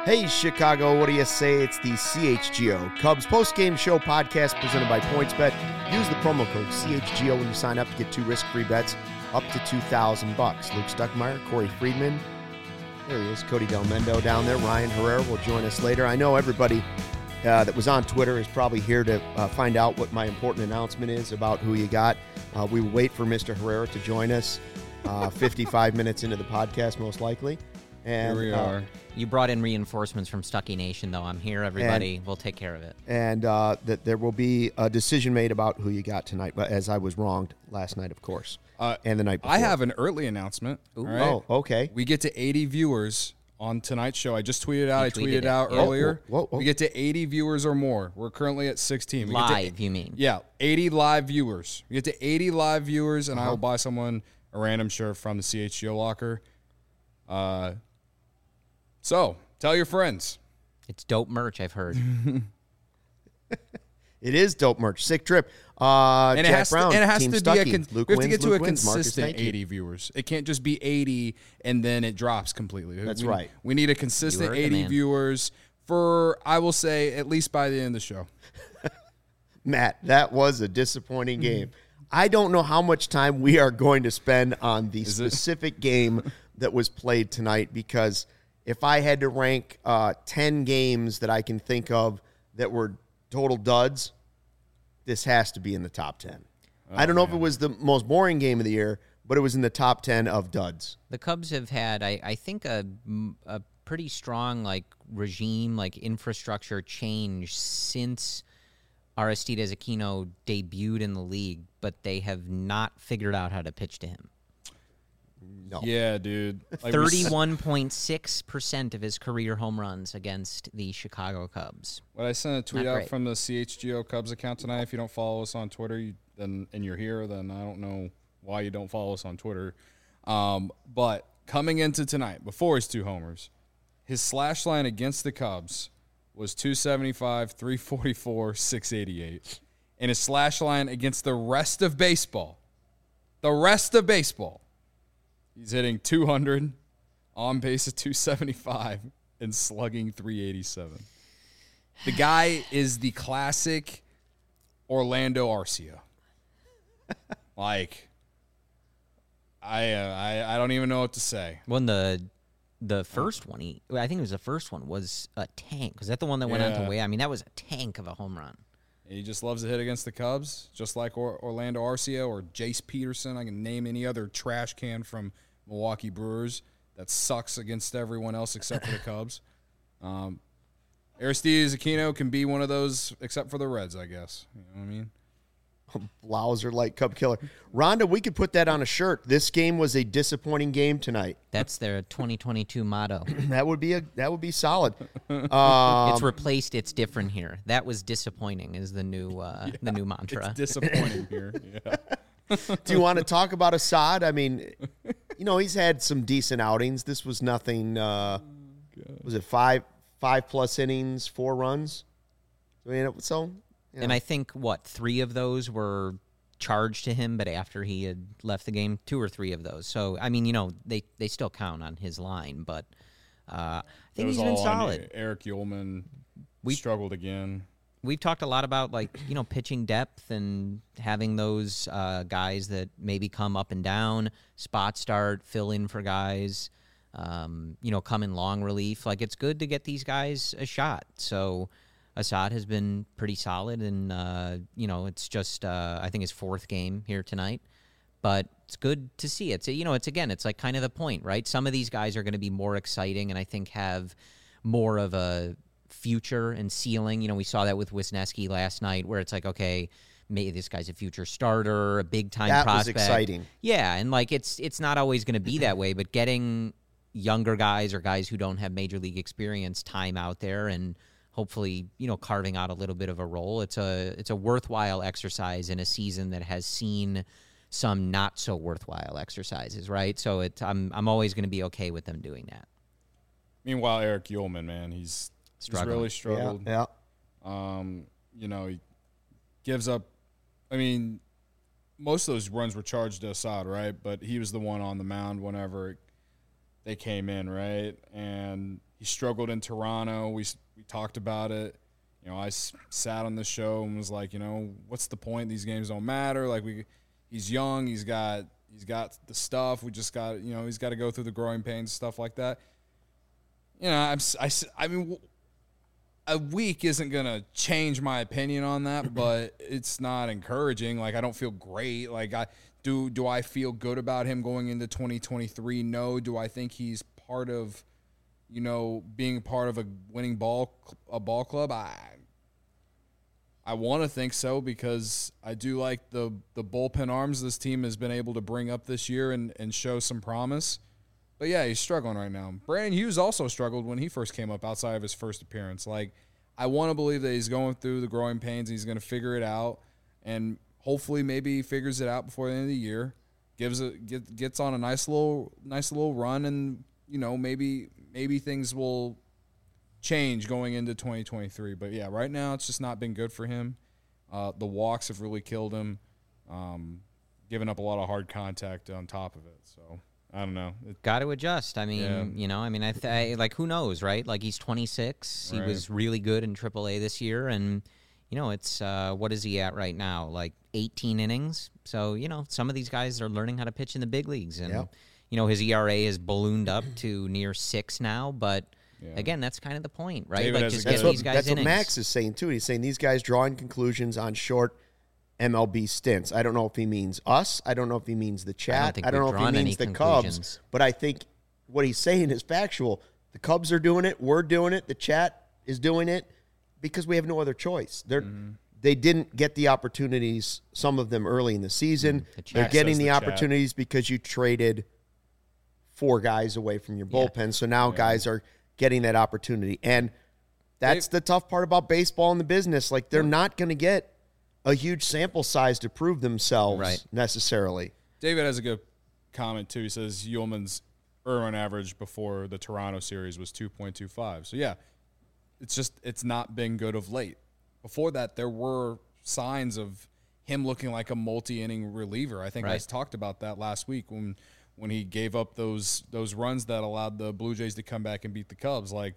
Hey, Chicago, what do you say? It's the CHGO Cubs post-game show podcast presented by PointsBet. Use the promo code CHGO when you sign up to get 2 risk-free bets up to $2,000. Luke Stuckmeyer, Corey Friedman. There he is, Cody Del Mendo down there. Ryan Herrera will join us later. I know everybody that was on Twitter is probably here to find out what my important announcement is about who you got. We will wait for Mr. Herrera to join us 55 minutes into the podcast, most likely. And here we are. You brought in reinforcements from Stuckey Nation, though. I'm here, everybody. We'll take care of it. And that there will be a decision made about who you got tonight, but as I was wronged last night, of course, and the night before. I have an early announcement. All right? Oh, okay. We get to 80 viewers on tonight's show. I just tweeted out. I tweeted out yeah. earlier. Whoa. We get to 80 viewers or more. We're currently at 16. We Live, you mean? Yeah, 80 live viewers. We get to 80 live viewers, and I will buy someone a random shirt from the CHGO locker. So, tell your friends. It's dope merch, I've heard. It is dope merch. Sick trip. And Jack it has Brown, to, and it has Team to Stuckey. be Luke we have wins, to get to Luke a wins. Marcus, consistent thank you. 80 viewers. It can't just be 80 and then it drops completely. That's right. We need a consistent heard the 80 man. viewers for, I will say, at least by the end of the show. Matt, that was a disappointing game. I don't know how much time we are going to spend on the specific game that was played tonight, because if I had to rank 10 games that I can think of that were total duds, this has to be in the top 10. I don't know if it was the most boring game of the year, but it was in the top 10 of duds. The Cubs have had, I think, a pretty strong regime, infrastructure change since Aristides Aquino debuted in the league, but they have not figured out how to pitch to him. No. Yeah, dude. 31.6% of his career home runs against the Chicago Cubs. When I sent a tweet Not out great. from the CHGO Cubs account tonight, if you don't follow us on Twitter and you're here, then I don't know why you don't follow us on Twitter. But coming into tonight, before his 2 homers, his slash line against the Cubs was 275, 344, 688. And his slash line against the rest of baseball, he's hitting 200, on base at 275, and slugging 387. The guy is the classic Orlando Arcia. I don't even know what to say. When the first one, I think it was the first one, was a tank. Was that the one that went on to Way? I mean, that was a tank of a home run. He just loves to hit against the Cubs, just like Orlando Arcia or Jace Peterson. I can name any other trash can from Milwaukee Brewers that sucks against everyone else except for the Cubs. Aristides Aquino can be one of those except for the Reds, I guess. You know what I mean? Blauser like Cub killer. Rhonda, we could put that on a shirt. This game was a disappointing game tonight. That's their 2022 motto. That would be solid. It's replaced. It's different here. That was disappointing. Is the new mantra. It's disappointing here. Yeah. Do you want to talk about Assad? I mean, he's had some decent outings. This was nothing. Was it 5+ innings, 4 runs? And I think, 3 of those were charged to him, but after he had left the game, 2 or 3 of those. So, I mean, they still count on his line, but I think he's been solid. Eric Ullman struggled again. We've talked a lot about, pitching depth and having those guys that maybe come up and down, spot start, fill in for guys, come in long relief. It's good to get these guys a shot. So Assad has been pretty solid, and, it's just, I think, his 4th game here tonight. But it's good to see. It's kind of the point, right? Some of these guys are going to be more exciting and I think have more of a future and ceiling. We saw that with Wisniewski last night, where it's okay, maybe this guy's a future starter, a big-time prospect. That was exciting. Yeah, and, it's not always going to be that way, but getting younger guys or guys who don't have major league experience time out there and hopefully, carving out a little bit of a role. It's a worthwhile exercise in a season that has seen some not so worthwhile exercises, right? So I'm always going to be okay with them doing that. Meanwhile, Eric Ullman, man, he's really struggled. Yeah. He gives up. I mean, most of those runs were charged to Assad, right? But he was the one on the mound whenever they came in, right? And he struggled in Toronto. We talked about it. You know, I sat on the show and was like, you know, what's the point? These games don't matter. Like, he's young. He's got the stuff. We just got, you know, he's got to go through the growing pains, stuff like that. You know, I mean, a week isn't going to change my opinion on that, but it's not encouraging. Like, I don't feel great. Like, do I feel good about him going into 2023? No. Do I think he's part of, you know, being part of a winning ball club? I want to think so, because I do like the bullpen arms this team has been able to bring up this year and show some promise. But, yeah, he's struggling right now. Brandon Hughes also struggled when he first came up outside of his first appearance. Like, I want to believe that he's going through the growing pains and he's going to figure it out. And hopefully maybe he figures it out before the end of the year, gets on a nice little run, and, you know, maybe things will change going into 2023. But, yeah, right now it's just not been good for him. The walks have really killed him, giving up a lot of hard contact on top of it. So, I don't know. Got to adjust. I mean, you know, I mean, like, who knows, right? Like, he's 26. Right. He was really good in AAA this year. And, you know, it's what is he at right now? Like 18 innings. So, you know, some of these guys are learning how to pitch in the big leagues. And, you know, his ERA is ballooned up to near 6 now. But, again, that's kind of the point, right? David, like, just get these guys That's innings. what Max is saying, too. He's saying these guys drawing conclusions on short MLB stints. I don't know if he means us. I don't know if he means the chat. I don't know if he means the Cubs. But I think what he's saying is factual. The Cubs are doing it. We're doing it. The chat is doing it because we have no other choice. They didn't get the opportunities, some of them early in the season. They're getting the opportunities because you traded 4 guys away from your bullpen. So now guys are getting that opportunity. And that's the tough part about baseball and the business. Like, they're not going to get a huge sample size to prove themselves necessarily. David has a good comment, too. He says Ullman's earn average before the Toronto series was 2.25. So, yeah, it's not been good of late. Before that, there were signs of him looking like a multi-inning reliever. I think I talked about that last week when he gave up those runs that allowed the Blue Jays to come back and beat the Cubs. Like,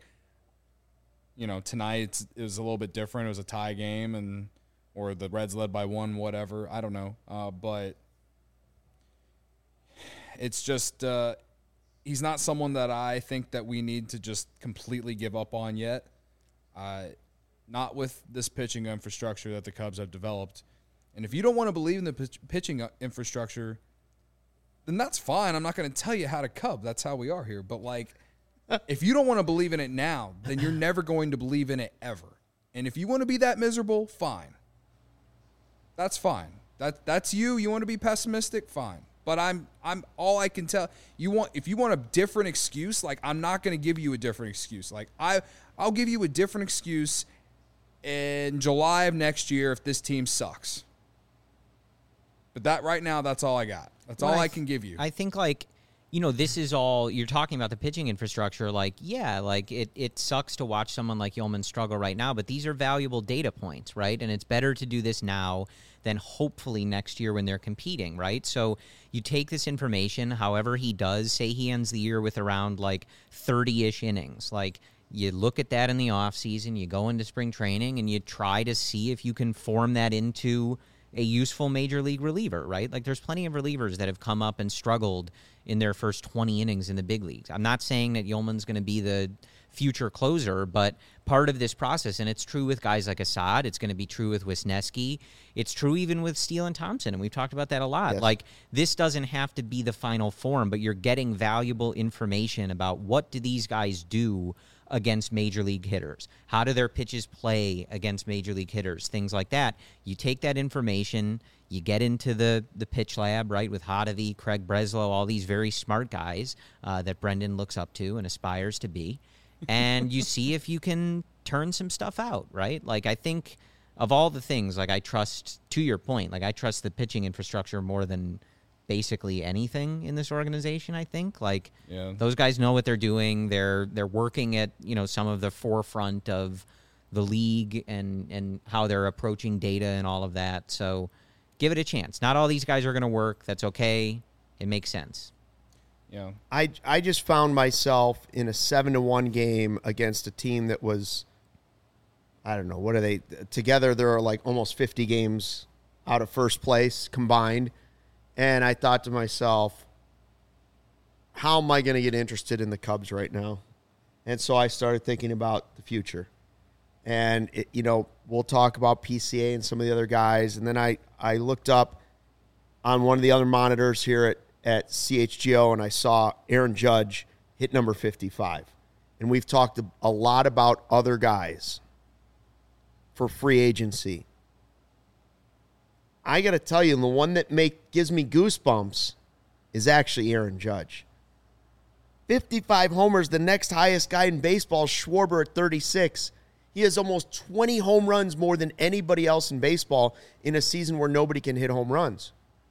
you know, tonight it was a little bit different. It was a tie game, or the Reds led by 1, whatever. I don't know. But it's just he's not someone that I think that we need to just completely give up on yet. Not with this pitching infrastructure that the Cubs have developed. And if you don't want to believe in the pitching infrastructure, then that's fine. I'm not going to tell you how to Cub. That's how we are here. But, like, if you don't want to believe in it now, then you're never going to believe in it ever. And if you want to be that miserable, fine. That's fine. That's you. You want to be pessimistic? Fine. But I'm all I can tell. If you want a different excuse, like, I'm not going to give you a different excuse. Like, I'll give you a different excuse in July of next year if this team sucks. But that right now, that's all I got. That's all I can give you. I think, like, you know, this is all you're talking about, the pitching infrastructure. Like, yeah, like it sucks to watch someone like Ullman struggle right now, but these are valuable data points, right? And it's better to do this now than hopefully next year when they're competing, right? So you take this information, however he does, say he ends the year with around like 30-ish innings. Like, you look at that in the offseason, you go into spring training, and you try to see if you can form that into a useful major league reliever, right? Like, there's plenty of relievers that have come up and struggled in their first 20 innings in the big leagues. I'm not saying that Ullman's going to be the future closer, but part of this process, and it's true with guys like Assad, it's going to be true with Wisniewski, it's true even with Steele and Thompson, and we've talked about that a lot. Yes. Like, this doesn't have to be the final form, but you're getting valuable information about what do these guys do against major league hitters. How do their pitches play against major league hitters? Things like that. You take that information, you get into the pitch lab, right, with Hottovy, Craig Breslow, all these very smart guys that Brendan looks up to and aspires to be, and you see if you can turn some stuff out, right? Like, I think of all the things, like, I trust, to your point, like, I trust the pitching infrastructure more than basically anything in this organization. I think, like, those guys know what they're doing. They're working at, you know, some of the forefront of the league and how they're approaching data and all of that. So give it a chance. Not all these guys are going to work. That's okay. It makes sense. I just found myself in a 7-1 game against a team that was, I don't know, what are they? Together, there are like almost 50 games out of first place combined. And I thought to myself, how am I going to get interested in the Cubs right now? And so I started thinking about the future. And, we'll talk about PCA and some of the other guys. And then I looked up on one of the other monitors here at CHGO, and I saw Aaron Judge hit number 55. And we've talked a lot about other guys for free agency. I got to tell you, the one that gives me goosebumps is actually Aaron Judge. 55 homers, the next highest guy in baseball, Schwarber at 36. He has almost 20 home runs more than anybody else in baseball in a season where nobody can hit home runs.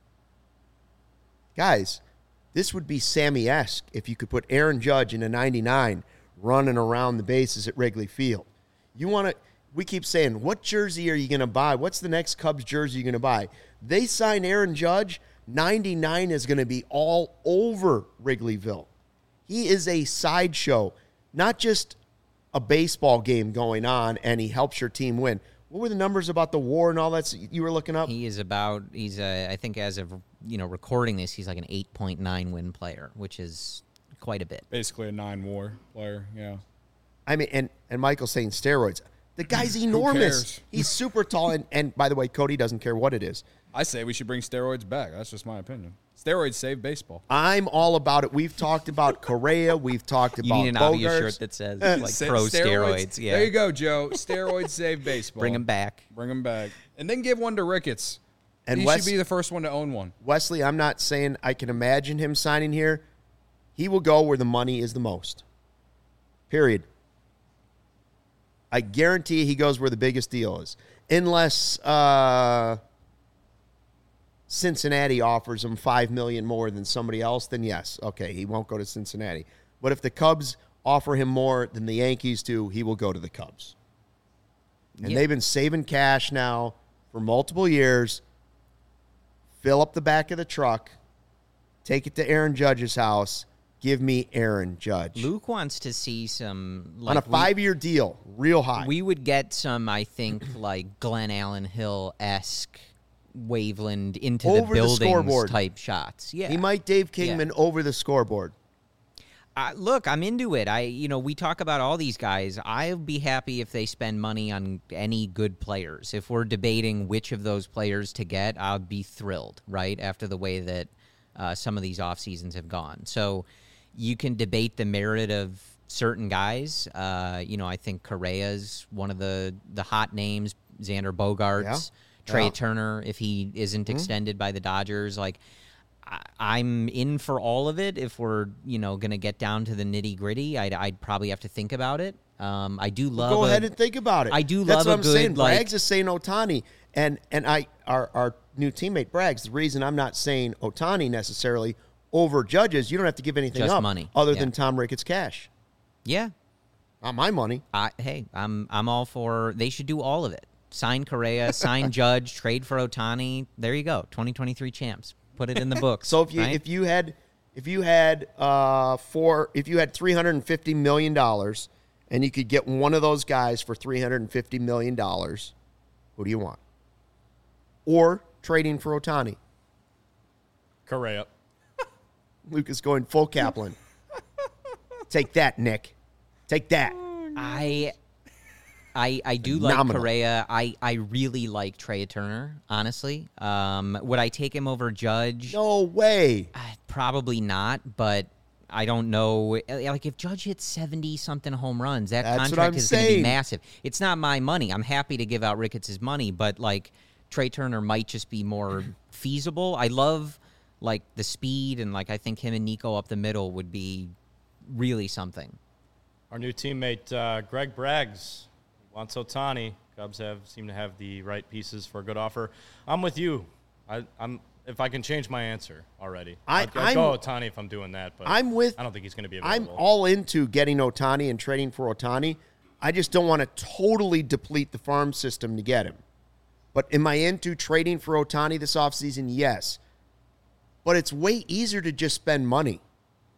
Guys, this would be Sammy-esque if you could put Aaron Judge in a 99 running around the bases at Wrigley Field. We keep saying, what jersey are you going to buy? What's the next Cubs jersey you're going to buy? They sign Aaron Judge, 99 is going to be all over Wrigleyville. He is a sideshow, not just a baseball game going on, and he helps your team win. What were the numbers about the WAR and all that you were looking up? I think as of recording this, he's like an 8.9 win player, which is quite a bit. Basically a 9 WAR player, yeah. I mean, and Michael's saying steroids. The guy's enormous. He's super tall, and by the way, Cody doesn't care what it is. I say we should bring steroids back. That's just my opinion. Steroids save baseball. I'm all about it. We've talked about Correa. We've talked about Bogaerts. You need an obvious shirt that says pro steroids. Yeah. There you go, Joe. Steroids save baseball. Bring them back. And then give one to Ricketts. And he should be the first one to own one. Wesley, I'm not saying I can imagine him signing here. He will go where the money is the most. Period. I guarantee he goes where the biggest deal is. Unless Cincinnati offers him $5 million more than somebody else, then yes, okay, he won't go to Cincinnati. But if the Cubs offer him more than the Yankees do, he will go to the Cubs. And they've been saving cash now for multiple years. Fill up the back of the truck, take it to Aaron Judge's house. Give me Aaron Judge. Luke wants to see some... on a 5-year deal, real high. We would get some, I think, like Glenn Allen Hill-esque Waveland into over the buildings the type shots. Yeah, he might Dave Kingman over the scoreboard. Look, I'm into it. We talk about all these guys. I'll be happy if they spend money on any good players. If we're debating which of those players to get, I'll be thrilled, right, after the way that some of these off seasons have gone. So you can debate the merit of certain guys. I think Correa's one of the hot names. Xander Bogaerts, Trey Turner, if he isn't extended by the Dodgers. Like, I'm in for all of it. If we're going to get down to the nitty gritty, I'd probably have to think about it. I do love. Go ahead and think about it. I do That's love what a I'm good. saying. Braggs is saying Ohtani, and our new teammate Braggs. The reason I'm not saying Ohtani necessarily over Judges, you don't have to give anything just up money other than Tom Ricketts cash. Yeah, not my money. I'm all for. They should do all of it. Sign Correa, sign Judge, trade for Ohtani. There you go. 2023 champs. Put it in the books. So if you had $350 million and you could get one of those guys for $350 million, who do you want? Or trading for Ohtani? Correa. Luke is going full Kaplan. Take that, Nick. Take that. I do like Nominal. Correa. I really like Trey Turner, honestly. Would I take him over Judge? No way. Probably not, but I don't know. Like, if Judge hits 70-something home runs, that That's contract what I'm is going to saying. be massive. It's not my money. I'm happy to give out Ricketts' money, but, like, Trey Turner might just be more feasible. I love, like, the speed, and, like, I think him and Nico up the middle would be really something. Our new teammate, Greg Braggs, wants Ohtani. Cubs seem to have the right pieces for a good offer. I'm with you. I'm if I can change my answer already. I'd go Ohtani if I'm doing that, but I don't think he's going to be available. I'm all into getting Ohtani and trading for Ohtani. I just don't want to totally deplete the farm system to get him. But am I into trading for Ohtani this offseason? Yes. But it's way easier to just spend money.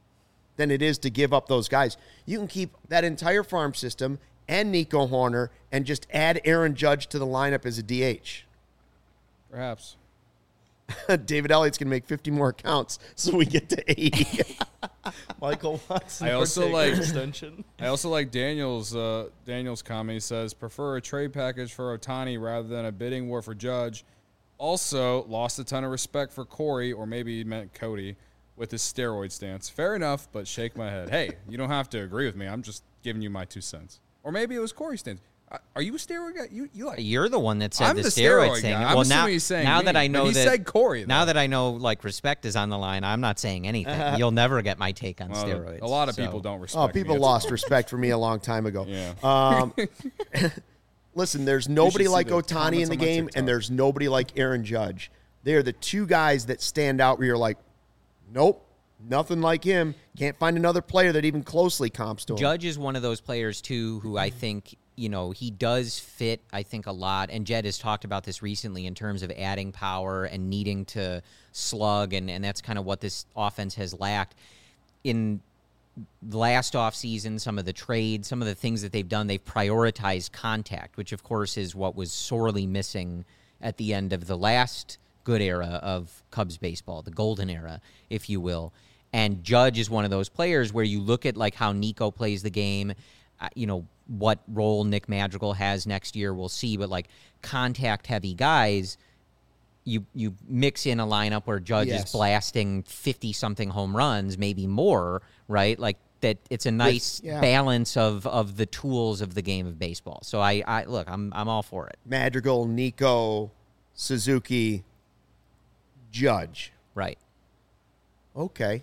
than it is to give up those guys. You can keep that entire farm system and Nico Horner and just add Aaron Judge to the lineup as a DH. Perhaps. David Elliott's going to make 50 more accounts so we get to 80. Michael Watson. I also like extension. I also like Daniel's comment. He says, prefer a trade package for Ohtani rather than a bidding war for Judge. Also, lost a ton of respect for Corey, or maybe he meant Cody, with his steroid stance. Fair enough, but shake my head. Hey, you don't have to agree with me. I'm just giving you my 2 cents. Or maybe it was Corey's stance. Are you a steroid guy? You like? You're the one that said I'm the the steroid thing. guy. I'm Well, assuming he's saying now me, that I know but he that said Corey, though. Now that I know, like, respect is on the line, I'm not saying anything. You'll never get my take on steroids. A lot of so. people don't respect Oh, me. people It's- lost respect for me a long time ago. Yeah. Listen, there's nobody see like the Ohtani in comments the on my game, TikTok. and there's nobody like Aaron Judge. They are the two guys that stand out where you're like, nope, nothing like him. Can't find another player that even closely comps to him. Judge is one of those players, too, who I think, he does fit, I think, a lot. And Jed has talked about this recently in terms of adding power and needing to slug, and that's kind of what this offense has lacked. In the last offseason, some of the trades, some of the things that they've done, they've prioritized contact, which, of course, is what was sorely missing at the end of the last good era of Cubs baseball, the golden era, if you will. And Judge is one of those players where you look at, like, how Nico plays the game, what role Nick Madrigal has next year, we'll see. But, like, contact-heavy guys, you mix in a lineup where Judge is blasting 50-something home runs, maybe more, right? Like, that it's a nice balance of the tools of the game of baseball. So I look, I'm all for it. Madrigal, Nico, Suzuki, Judge. Right. Okay.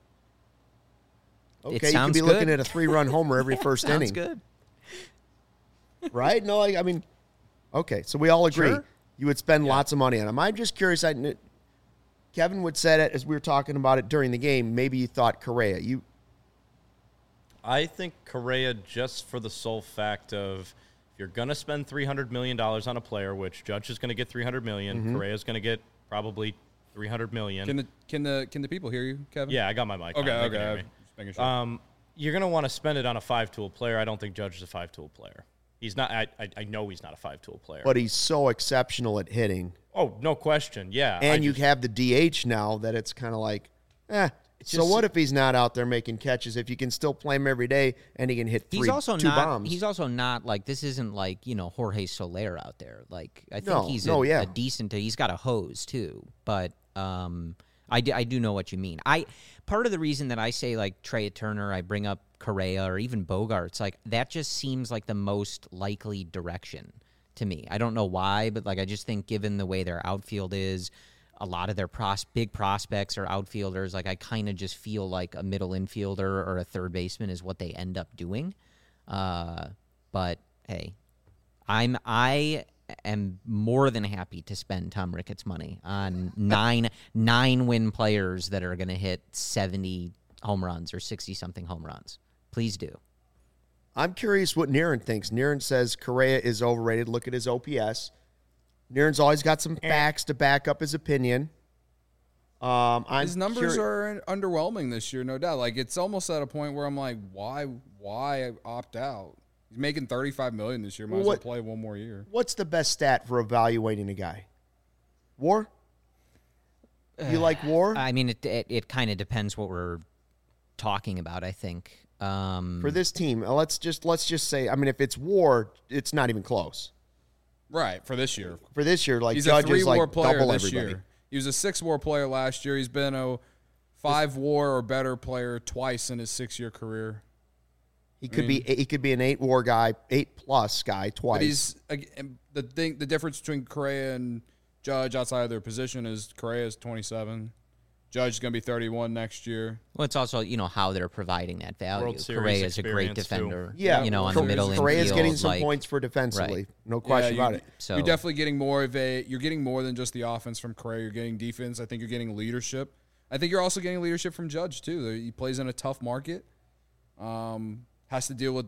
It Okay, you could sounds be good. looking at a 3-run homer every first Sounds inning. good. Right? No, I mean, okay, so we all agree. Sure. You would spend lots of money on him. I'm just curious. Kevin would said it as we were talking about it during the game. Maybe you thought Correa. I think Correa, just for the sole fact of, if you're going to spend $300 million on a player, which Judge is going to get $300 million, Mm-hmm. Correa is going to get probably $300 million. Can the people hear you, Kevin? Yeah, I got my mic on. Okay. They can hear me. Just making sure. You're going to want to spend it on a 5-tool player. I don't think Judge is a 5-tool player. He's not. I know he's not a 5-tool player. But he's so exceptional at hitting. Oh, no question. Yeah. And you have the DH now that it's kind of like, so just- what if he's not out there making catches? If you can still play him every day and he can hit two bombs. He's also not like, this isn't like, Jorge Soler out there. Like, I think No, he's no, yeah. a decent, he's got a hose too. But I do know what you mean. Part of the reason that I say, like, Trey Turner, I bring up Correa or even Bogarts, like, that just seems like the most likely direction to me. I don't know why, but, like, I just think given the way their outfield is, a lot of their big prospects are outfielders. Like, I kind of just feel like a middle infielder or a third baseman is what they end up doing. But hey, I am more than happy to spend Tom Ricketts money on nine win players that are going to hit 70 home runs or 60-something home runs. Please do. I'm curious what Niren thinks. Niren says Correa is overrated. Look at his OPS. Niren's always got some facts to back up his opinion. His numbers are underwhelming this year, no doubt. Like, it's almost at a point where I'm like, why opt out? He's making $35 million this year. Might as well play one more year. What's the best stat for evaluating a guy? WAR? You like WAR? I mean, it kind of depends what we're talking about, I think. For this team, let's just say, I mean, if it's WAR, it's not even close. Right, for this year. For this year, like, He's Judge a 3 is WAR like player double this everybody. year. He was a 6 WAR player last year. He's been a 5 WAR or better player twice in his 6-year career. He could be an 8 WAR guy, 8+ guy twice. But he's the difference between Correa and Judge outside of their position is Correa is 27. Judge is going to be 31 next year. Well, it's also, how they're providing that value. World Series Correa is a great experience, defender. too. Yeah, on the middle infield. Correa's getting some like, points for defensively. Right. No question about it. So You're definitely getting more than just the offense from Correa. You're getting defense. I think you're getting leadership. I think you're also getting leadership from Judge, too. He plays in a tough market. Has to deal with,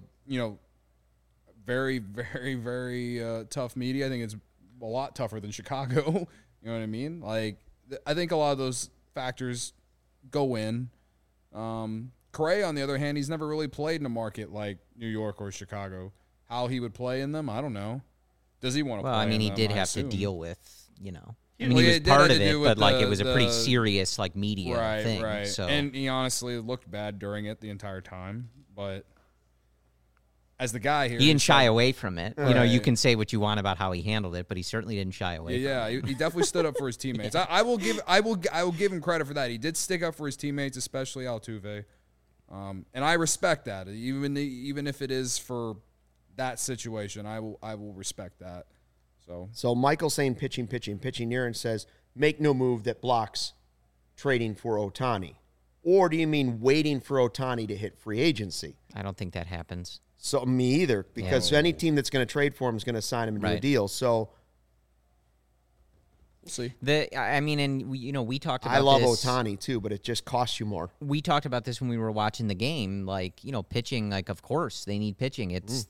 very, very, very tough media. I think it's a lot tougher than Chicago. You know what I mean? Like, I think a lot of those factors go in. Correa, on the other hand, he's never really played in a market like New York or Chicago. How he would play in them, I don't know. Does he want to play Well, I mean, in he them, did I have to assume. deal with, I mean, Well, he was it did part have of to it, do with but, like, it was a pretty the- serious, like, media Right, thing. right. So. And he honestly looked bad during it the entire time. But as the guy here, he didn't shy said- away from it. You know, you Right. can say what you want about how he handled it, but he certainly didn't shy away. Yeah, he definitely stood up for his teammates. I will give him credit for that. He did stick up for his teammates, especially Altuve, and I respect that. Even if it is for that situation, I will respect that. So Michael saying pitching. Niren says make no move that blocks trading for Ohtani, or do you mean waiting for Ohtani to hit free agency? I don't think that happens. So me either, because any team that's going to trade for him is going to sign him into a Right. deal. So We'll see. We talked about I love this. Ohtani too, but it just costs you more. We talked about this when we were watching the game. Like, pitching. Like, of course they need pitching.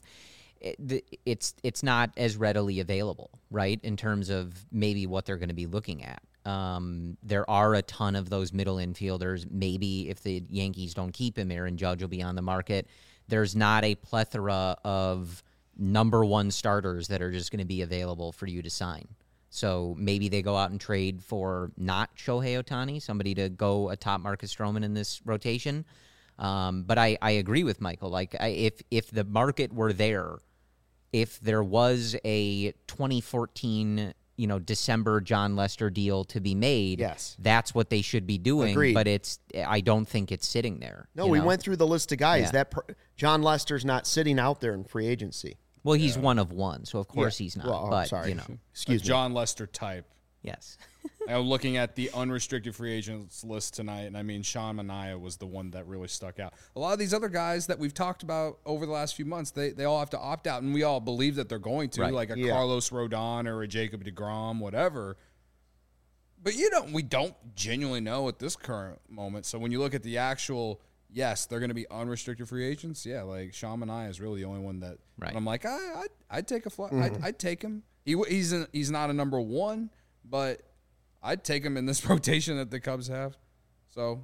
It's not as readily available, right? In terms of maybe what they're going to be looking at. There are a ton of those middle infielders. Maybe if the Yankees don't keep him, Aaron Judge will be on the market. There's not a plethora of number one starters that are just going to be available for you to sign. So maybe they go out and trade for not Shohei Ohtani, somebody to go atop Marcus Stroman in this rotation. But I agree with Michael. Like, if the market were there, if there was a 2014, December John Lester deal to be made, Yes. that's what they should be doing. Agreed. But I don't think it's sitting there. No, we went through the list of guys. Yeah. John Lester's not sitting out there in free agency. Well, he's one of one, so of course he's not. Well, but sorry. Excuse me. John Lester type. Yes. I'm looking at the unrestricted free agents list tonight, and I mean, Sean Manaea was the one that really stuck out. A lot of these other guys that we've talked about over the last few months, they all have to opt out, and we all believe that they're going to, Right. like a Yeah. Carlos Rodon or a Jacob deGrom, whatever. But we don't genuinely know at this current moment. So when you look at the actual, yes, they're going to be unrestricted free agents. Yeah, like Sean Manaea is really the only one that Right. I'm like, I'd take a fly. I'd take him. He's not a number one, but I'd take him in this rotation that the Cubs have. So,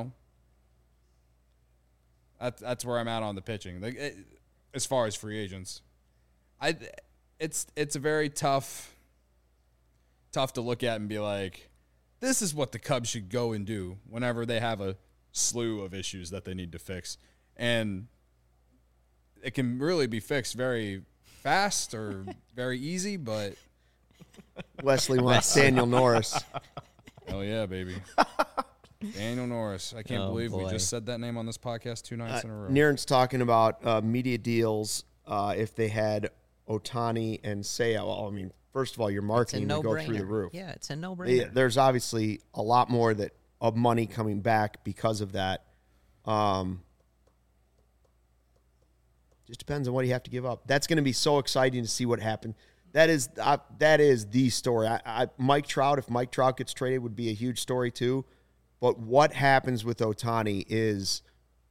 that's where I'm at on the pitching. Like, as far as free agents, it's a very tough to look at and be like, this is what the Cubs should go and do whenever they have a slew of issues that they need to fix. And it can really be fixed very fast or very easy, but Wesley wants Daniel Norris. hell yeah, baby. Daniel Norris. I can't believe we boy. just said that name on this podcast 2 nights in a row. Niren's talking about media deals if they had Ohtani and Seiya. Well, I mean, first of all, your It's a marketing would go no-brainer. through the roof. Yeah, it's a no-brainer. There's obviously a lot more of money coming back because of that. Just depends on what you have to give up. That's going to be so exciting to see what happens. That is the story. Mike Trout, if Mike Trout gets traded, would be a huge story too. But what happens with Ohtani is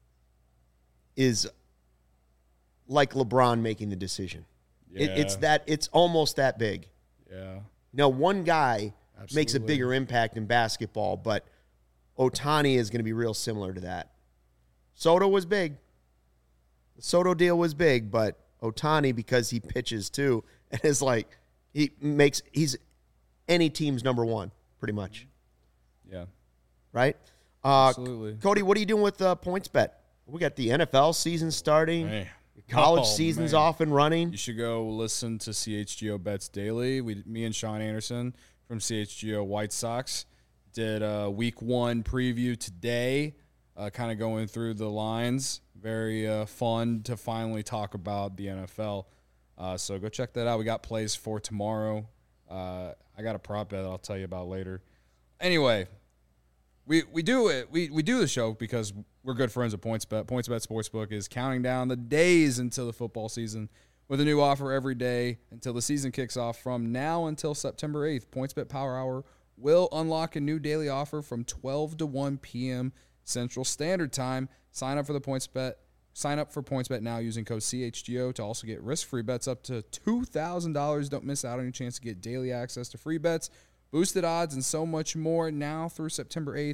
like LeBron making the decision. Yeah. It's almost that big. Yeah. Now, one guy makes a Absolutely. bigger impact in basketball, but Ohtani is going to be real similar to that. Soto was big. The Soto deal was big, but Ohtani, because he pitches too, and is like, he's any team's number one, pretty much. Yeah. Right? Absolutely. Cody, what are you doing with PointsBet? We got the NFL season starting. Hey. College Oh, season's man. off and running. You should go listen to CHGO Bets Daily. Me and Sean Anderson from CHGO White Sox did a week 1 preview today, kind of going through the lines. Very fun to finally talk about the NFL. So go check that out. We got plays for tomorrow. I got a prop bet that I'll tell you about later. Anyway, we do it. We do the show because we're good friends of PointsBet. PointsBet Sportsbook is counting down the days until the football season with a new offer every day until the season kicks off. From now until September 8th, PointsBet Power Hour will unlock a new daily offer from 12 to 1 p.m. Central Standard Time. Sign up for PointsBet now using code CHGO to also get risk-free bets up to $2,000. Don't miss out on your chance to get daily access to free bets, boosted odds, and so much more now through September 8th.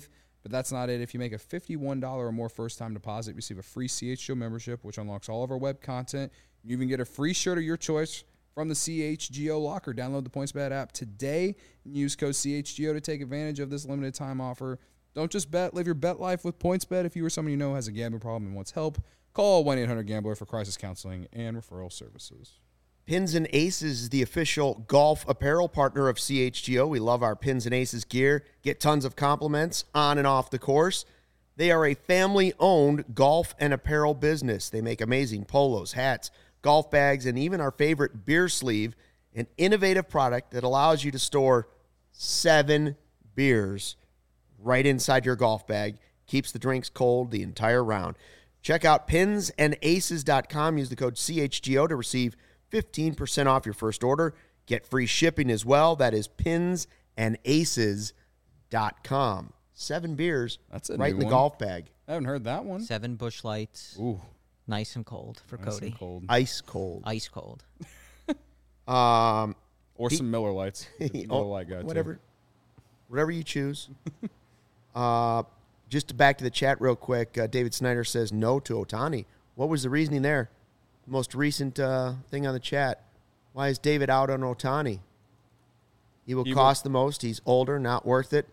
But that's not it. If you make a $51 or more first-time deposit, you receive a free CHGO membership, which unlocks all of our web content. You even get a free shirt of your choice from the CHGO locker. Download the PointsBet app today and use code CHGO to take advantage of this limited time offer. Don't just bet. Live your bet life with PointsBet. If you or someone you know has a gambling problem and wants help, call 1-800-GAMBLER for crisis counseling and referral services. Pins and Aces is the official golf apparel partner of CHGO. We love our Pins and Aces gear. Get tons of compliments on and off the course. They are a family-owned golf and apparel business. They make amazing polos, hats, golf bags, and even our favorite beer sleeve, an innovative product that allows you to store 7 beers right inside your golf bag. Keeps the drinks cold the entire round. Check out pinsandaces.com. Use the code CHGO to receive 15% off your first order. Get free shipping as well. That is pinsandaces.com. 7 beers That's a right new in the one. golf bag. I haven't heard that one. 7 Busch Lights. Ooh, Nice and cold for nice Cody. and cold. Ice cold. Ice cold. Or some Miller Lights. Miller Oh, Light guy, too. whatever you choose. Just back to the chat real quick. David Snyder says no to Ohtani. What was the reasoning there? Most recent thing on the chat. Why is David out on Ohtani? He will cost the most. He's older, not worth it.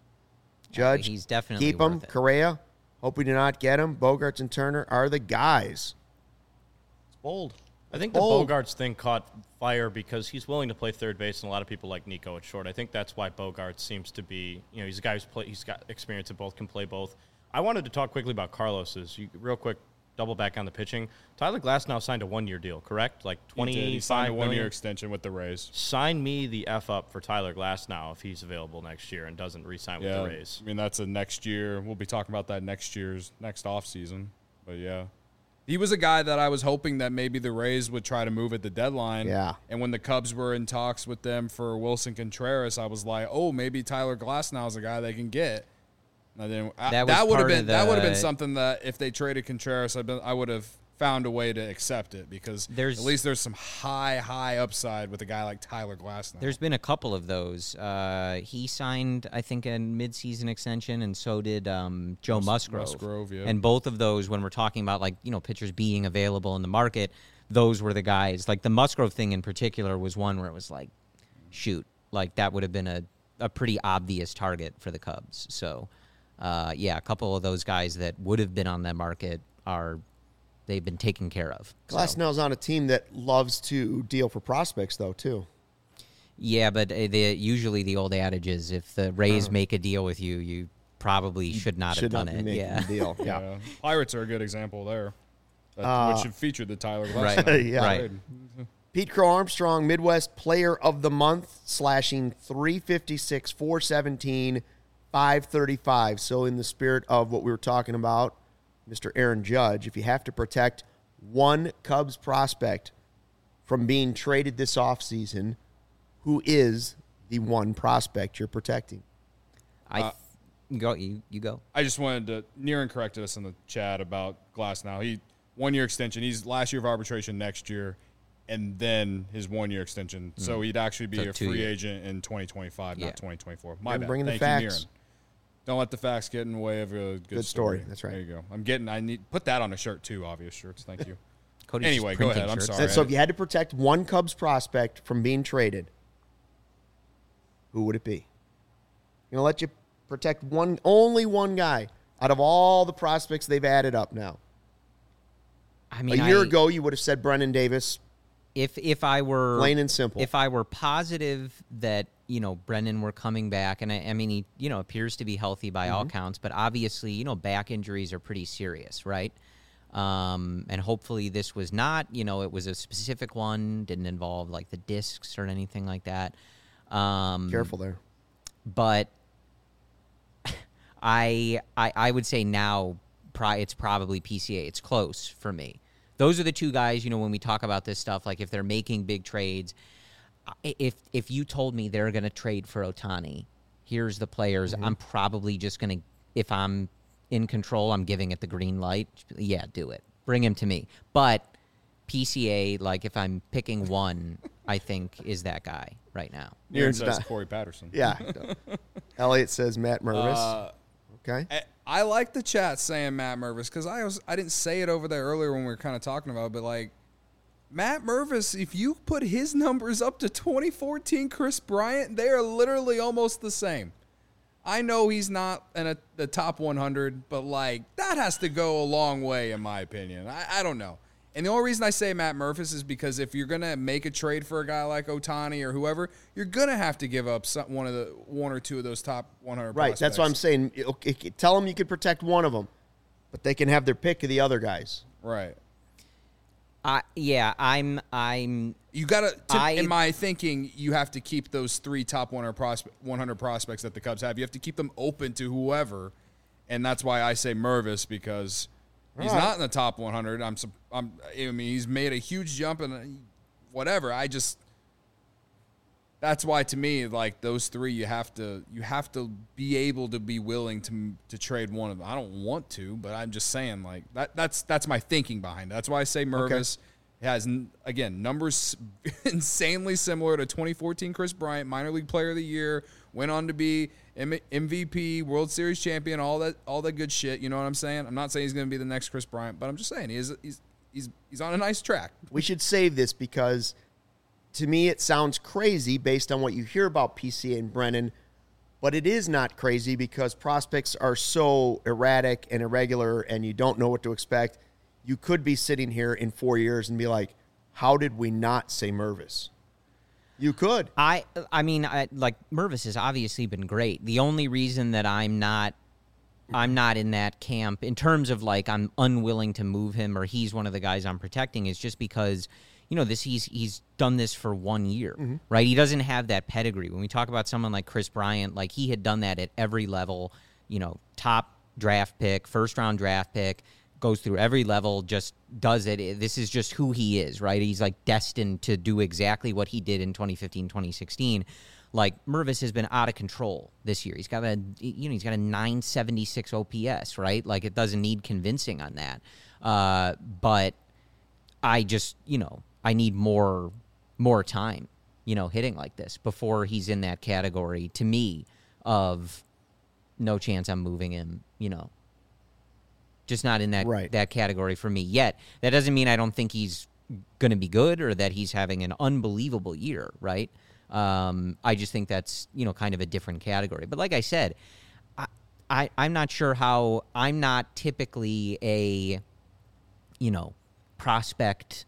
Judge, he's definitely keep him. worth it. Correa, hope we do not get him. Bogarts and Turner are the guys. It's bold. I think the Bold. Bogarts thing caught fire because he's willing to play third base, and a lot of people like Nico at short. I think that's why Bogarts seems to be, he's a guy he's got experience at both, can play both. I wanted to talk quickly about Carlos's. Real quick, double back on the pitching. Tyler Glasnow signed a 1-year deal, correct? Like He did. He signed a 25 1-year million. extension with the Rays. Sign me the F up for Tyler Glasnow if he's available next year and doesn't re-sign with the Rays. I mean, that's a next year. We'll be talking about that next offseason. But, yeah. He was a guy that I was hoping that maybe the Rays would try to move at the deadline. Yeah. And when the Cubs were in talks with them for Wilson Contreras, I was like, oh, maybe Tyler Glasnow's a guy they can get. And then that would have been something that if they traded Contreras, I would have found a way to accept it because at least there's some high upside with a guy like Tyler Glasnow. There's been a couple of those. He signed, I think, a midseason extension, and so did Joe Musgrove. Musgrove, yeah. And both of those, when we're talking about pitchers being available in the market, those were the guys. Like the Musgrove thing in particular was one where it was like, shoot, like that would have been a pretty obvious target for the Cubs. So, a couple of those guys that would have been on that market they've been taken care of. Glasnow's on a team that loves to deal for prospects, though, too. Yeah, but usually the old adage is if the Rays make a deal with you, you probably should not have done it. Yeah. Deal. Yeah. Pirates are a good example there, which should feature the Tyler Glasnow. Right. Yeah. Right. Pete Crow Armstrong, Midwest Player of the Month, slashing 356, 417, 535. So in the spirit of what we were talking about, Mr. Aaron Judge, if you have to protect one Cubs prospect from being traded this offseason, who is the one prospect you're protecting? You go. I just wanted to, Niren corrected us in the chat about Glasnow. He 1-year extension. He's last year of arbitration next year, and then his 1-year extension. So he'd actually be a free agent in 2025, not 2024. My bad. Bringing the Thank you, facts. Niren. Don't let the facts get in the way of a good story. That's right. There you go. I need put that on a shirt too. Obvious shirts. Thank you. Cody's Anyway, just go printing ahead. I'm shirts. sorry. And so if you had to protect one Cubs prospect from being traded, who would it be? I'm going to let you protect only one guy out of all the prospects they've added up now. I mean, a year ago, you would have said Brennan Davis. If I were Plain and simple. If I were positive that Brennan were coming back, and I mean he appears to be healthy by all counts, but obviously back injuries are pretty serious, right? And hopefully this was not, it was a specific one, didn't involve like the discs or anything like that. Careful there. But I would say now it's probably PCA. It's close for me. Those are the two guys, when we talk about this stuff, like if they're making big trades, if you told me they're going to trade for Ohtani, here's the players, I'm probably just going to, if I'm in control, I'm giving it the green light. Yeah, do it. Bring him to me. But PCA, like if I'm picking one, I think is that guy right now. Niren says Corey Patterson. Yeah. Elliot says Matt Mervis. Okay. I like the chat saying Matt Mervis because I didn't say it over there earlier when we were kind of talking about it, but like Matt Mervis, if you put his numbers up to 2014 Chris Bryant, they are literally almost the same. I know he's not in the top 100, but like that has to go a long way in my opinion. I don't know. And the only reason I say Matt Mervis is because if you're going to make a trade for a guy like Ohtani or whoever, you're going to have to give up one or two of those top 100 Right, prospects. that's what I'm saying. Okay, tell them you could protect one of them, but they can have their pick of the other guys. Right. I'm. You got to, in my thinking, you have to keep those 3 top 100 prospects that the Cubs have. You have to keep them open to whoever, and that's why I say Mervis because he's not in the top 100. I mean, he's made a huge jump and whatever. That's why to me, like those 3, you have to be able to be willing to trade one of them. I don't want to, but I'm just saying like that's my thinking behind it. That's why I say Mervis has again numbers insanely similar to 2014 Chris Bryant, minor league player of the year, went on to be MVP, World Series champion, all that good shit. You know what I'm saying? I'm not saying he's going to be the next Chris Bryant, but I'm just saying he's on a nice track. We should save this because to me it sounds crazy based on what you hear about PCA and Brennan, but it is not crazy because prospects are so erratic and irregular and you don't know what to expect. You could be sitting here in 4 years and be like, how did we not say Mervis? You could. I mean, Mervis has obviously been great. The only reason that I'm not in that camp in terms of like I'm unwilling to move him or he's one of the guys I'm protecting is just because, you know, he's done this for 1 year, right? He doesn't have that pedigree. When we talk about someone like Chris Bryant, like he had done that at every level, you know, top draft pick, first round draft pick, goes through every level, just does it. This is just who he is, right? He's like destined to do exactly what he did in 2015, 2016. Like Mervis has been out of control this year. He's got a 976 OPS, right? Like it doesn't need convincing on that. But I just, you know, I need more time, you know, hitting like this before he's in that category to me of no chance I'm moving him, you know. Just not in that category for me yet. That doesn't mean I don't think he's going to be good or that he's having an unbelievable year, right? I just think that's, you know, kind of a different category. But like I said, I'm not sure how – I'm not typically a, you know, prospect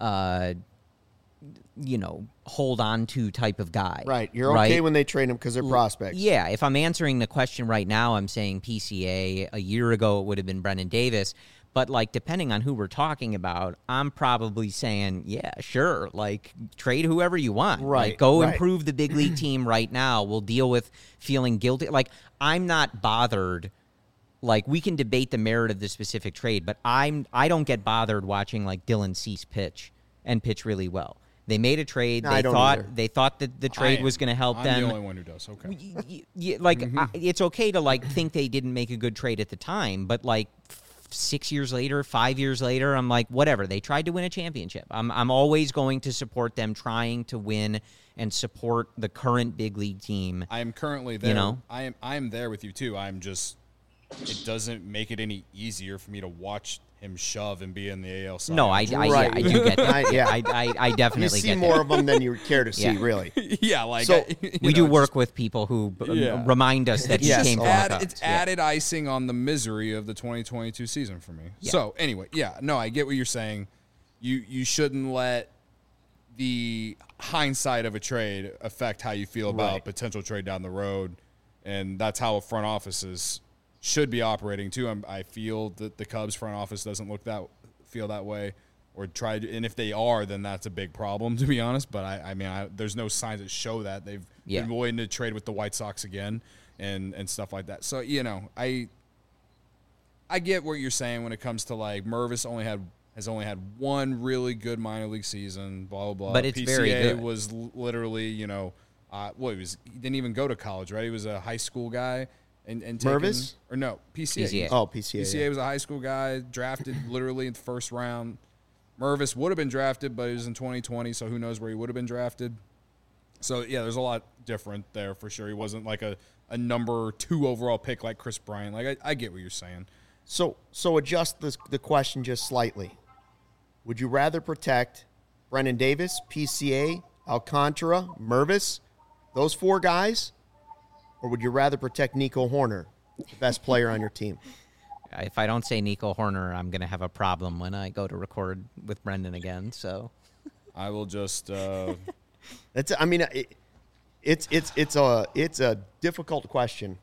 hold on to type of guy. Right. You're okay when they trade them because they're prospects. Yeah. If I'm answering the question right now, I'm saying PCA. A year ago, it would have been Brennan Davis. But, like, depending on who we're talking about, I'm probably saying, yeah, sure. Like, trade whoever you want. Right. Like, go improve the big league team right now. We'll deal with feeling guilty. Like, I'm not bothered. Like, we can debate the merit of the specific trade, but I don't get bothered watching, like, Dylan Cease pitch and pitch really well. They made a trade. No, they thought that the trade was going to help them. I'm the only one who does. Okay. It's okay to like think they didn't make a good trade at the time, but like 6 years later, 5 years later, I'm like, whatever. They tried to win a championship. I'm always going to support them trying to win and support the current big league team. I am currently there. You know, I am there with you too. I'm just. It doesn't make it any easier for me to watch him shove and be in the AL side. No, I do get that. I definitely you see get more that. of them than you care to see, Yeah. really. Yeah, like So, We do work with people who remind us that he Yes, came from a lot. the Cubs. It's added icing on the misery of the 2022 season for me. Yeah. So anyway, I get what you're saying. You shouldn't let the hindsight of a trade affect how you feel about potential trade down the road, and that's how a front offices should be operating too. I feel that the Cubs front office doesn't feel that way, or try to, and if they are, then that's a big problem, to be honest. But I mean, there's no signs that show that they've been willing to trade with the White Sox again and stuff like that. So I get what you're saying when it comes to like Mervis has only had one really good minor league season, blah blah blah. But it's PCA very good. was literally he didn't even go to college, right? He was a high school guy. And Mervis? Or no, PCA. Oh, PCA. PCA was a high school guy, drafted literally in the first round. Mervis would have been drafted, but it was in 2020, so who knows where he would have been drafted. So, yeah, there's a lot different there for sure. He wasn't like a number 2 overall pick like Chris Bryant. Like, I get what you're saying. So adjust the question just slightly. Would you rather protect Brendan Davis, PCA, Alcantara, Mervis, those 4 guys, or would you rather protect Nico Horner, the best player on your team? If I don't say Nico Horner, I'm going to have a problem when I go to record with Brendan again. So I will just. It's a difficult question.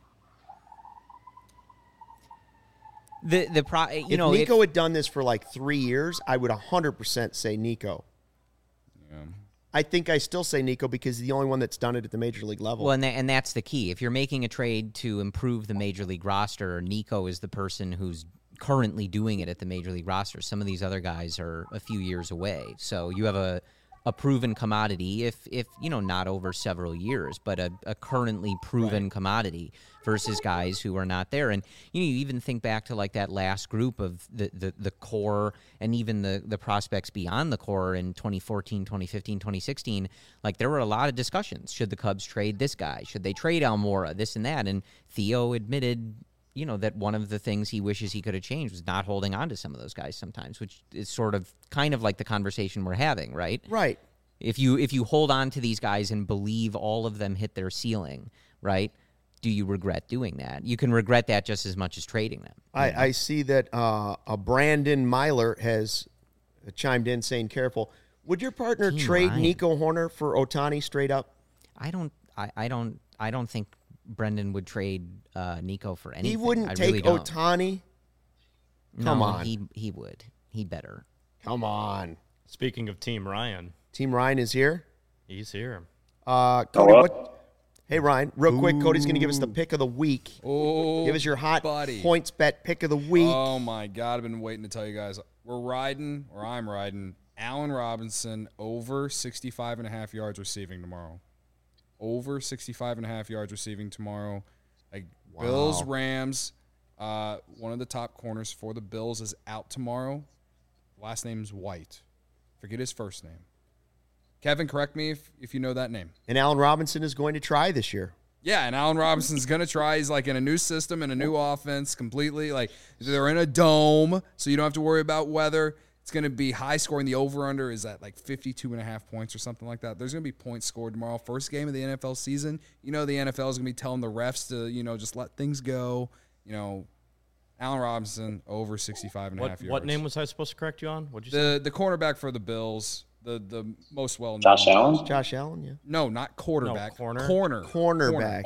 If Nico had done this for like 3 years, I would 100% say Nico. Yeah. I think I still say Nico because he's the only one that's done it at the major league level. Well, and that's the key. If you're making a trade to improve the major league roster, Nico is the person who's currently doing it at the major league roster. Some of these other guys are a few years away. So you have a proven commodity, if not over several years, but a currently proven commodity versus guys who are not there. And you even think back to like that last group of the core and even the prospects beyond the core in 2014, 2015, 2016. Like there were a lot of discussions. Should the Cubs trade this guy? Should they trade Almora? This and that. And Theo admitted, that one of the things he wishes he could have changed was not holding on to some of those guys sometimes, which is sort of kind of like the conversation we're having, right? Right. If you hold on to these guys and believe all of them hit their ceiling, right, do you regret doing that? You can regret that just as much as trading them. I see that a Brandon Myler has chimed in saying, careful. Would your partner trade Ryan. Nico Horner for Ohtani straight up? I don't think Brendan would trade Nico for anything. He wouldn't I take really don't. Ohtani? Come No, on. He would. He better. Come on. Speaking of Team Ryan, Team Ryan is here. he's here. Cody, hey, Ryan, real quick, Cody's going to give us the pick of the week. Oh, Give us your hot buddy. points bet pick of the week. Oh, my God. I've been waiting to tell you guys. I'm riding Allen Robinson over 65.5 yards receiving tomorrow. Over 65.5 yards receiving tomorrow. Bills, Rams. One of the top corners for the Bills is out tomorrow. Last name's White. Forget his first name. Kevin, correct me if you know that name. And Allen Robinson is going to try this year. Yeah, and Allen Robinson's going to try. He's like in a new system and a new offense completely. Like they're in a dome, so you don't have to worry about weather. It's going to be high scoring. The over-under is at like 52.5 points or something like that. There's going to be points scored tomorrow. First game of the NFL season. The NFL is going to be telling the refs to, just let things go. Allen Robinson over 65.5 yards. What name was I supposed to correct you on? What'd you say? The cornerback for the Bills, the most well-known. Josh Allen? Josh Allen, yeah. No, not quarterback. No, corner. Cornerback.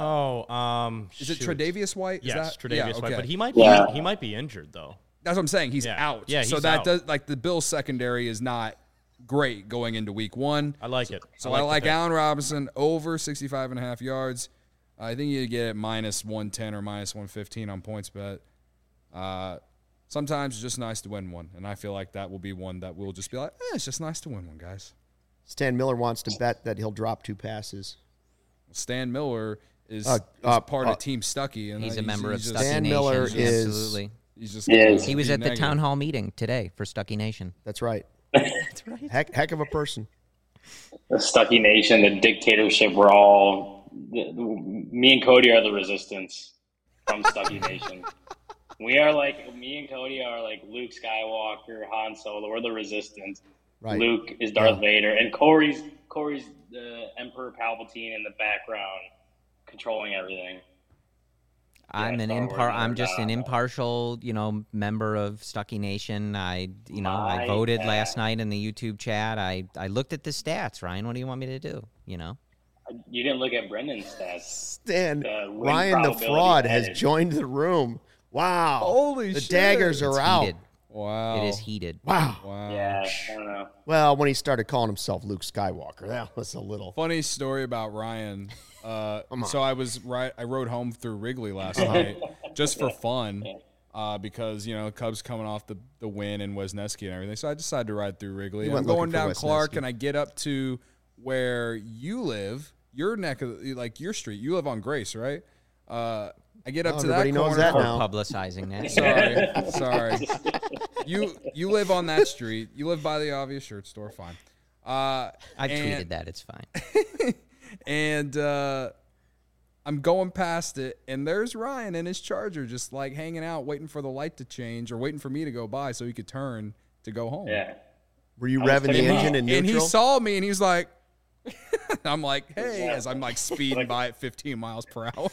Is it Tre'Davious White? Yes, Tre'Davious White. But he might be injured though. That's what I'm saying. He's out. Yeah, so he's that out. does the Bills secondary is not great going into week 1. I like it. So I like Allen Robinson over 65.5 yards. I think you get it minus 110 or minus 115 on points bet. Sometimes it's just nice to win one, and I feel like that will be one that we'll just be like, it's just nice to win one, guys. Stan Miller wants to bet that he'll drop 2 passes. Stan Miller is part of Team Stuckey. And He's a member of Stuckey Stan Nation. Miller is- Absolutely. He's just He was at the town hall meeting today for Stuckey Nation. That's right. That's right. Heck of a person. The Stuckey Nation, the dictatorship, me and Cody are the resistance from Stuckey Nation. Me and Cody are like Luke Skywalker, Han Solo. We're the resistance. Right. Luke is Darth Vader, and Corey's the Emperor Palpatine in the background, controlling everything. I'm just an impartial, member of Stuckey Nation. I voted last night in the YouTube chat. I looked at the stats. Ryan, what do you want me to do? You didn't look at Brendan's stats. Stan, Ryan the fraud has joined the room. Wow. Holy the shit. daggers are It's out. heated. Wow. It is heated. Wow. Yeah, I don't know. Well, when he started calling himself Luke Skywalker, that was a little. Funny story about Ryan. So I rode home through Wrigley last night just for fun because, Cubs coming off the win in Wisniewski and everything. So I decided to ride through Wrigley. You I'm went going looking for down Clark Wisniewski. and I get up to where you live, your neck of your street. You live on Grace, right? I get up to that everybody knows corner. that For now. publicizing that. Sorry. You live on that street. You live by the obvious shirt store. Fine. I tweeted that. It's fine. And I'm going past it, and there's Ryan in his Charger just like hanging out, waiting for the light to change or waiting for me to go by so he could turn to go home. Yeah. Were you revving the engine in neutral? And he saw me, and he's like, I'm like, hey, as I'm like speeding by at 15 miles per hour.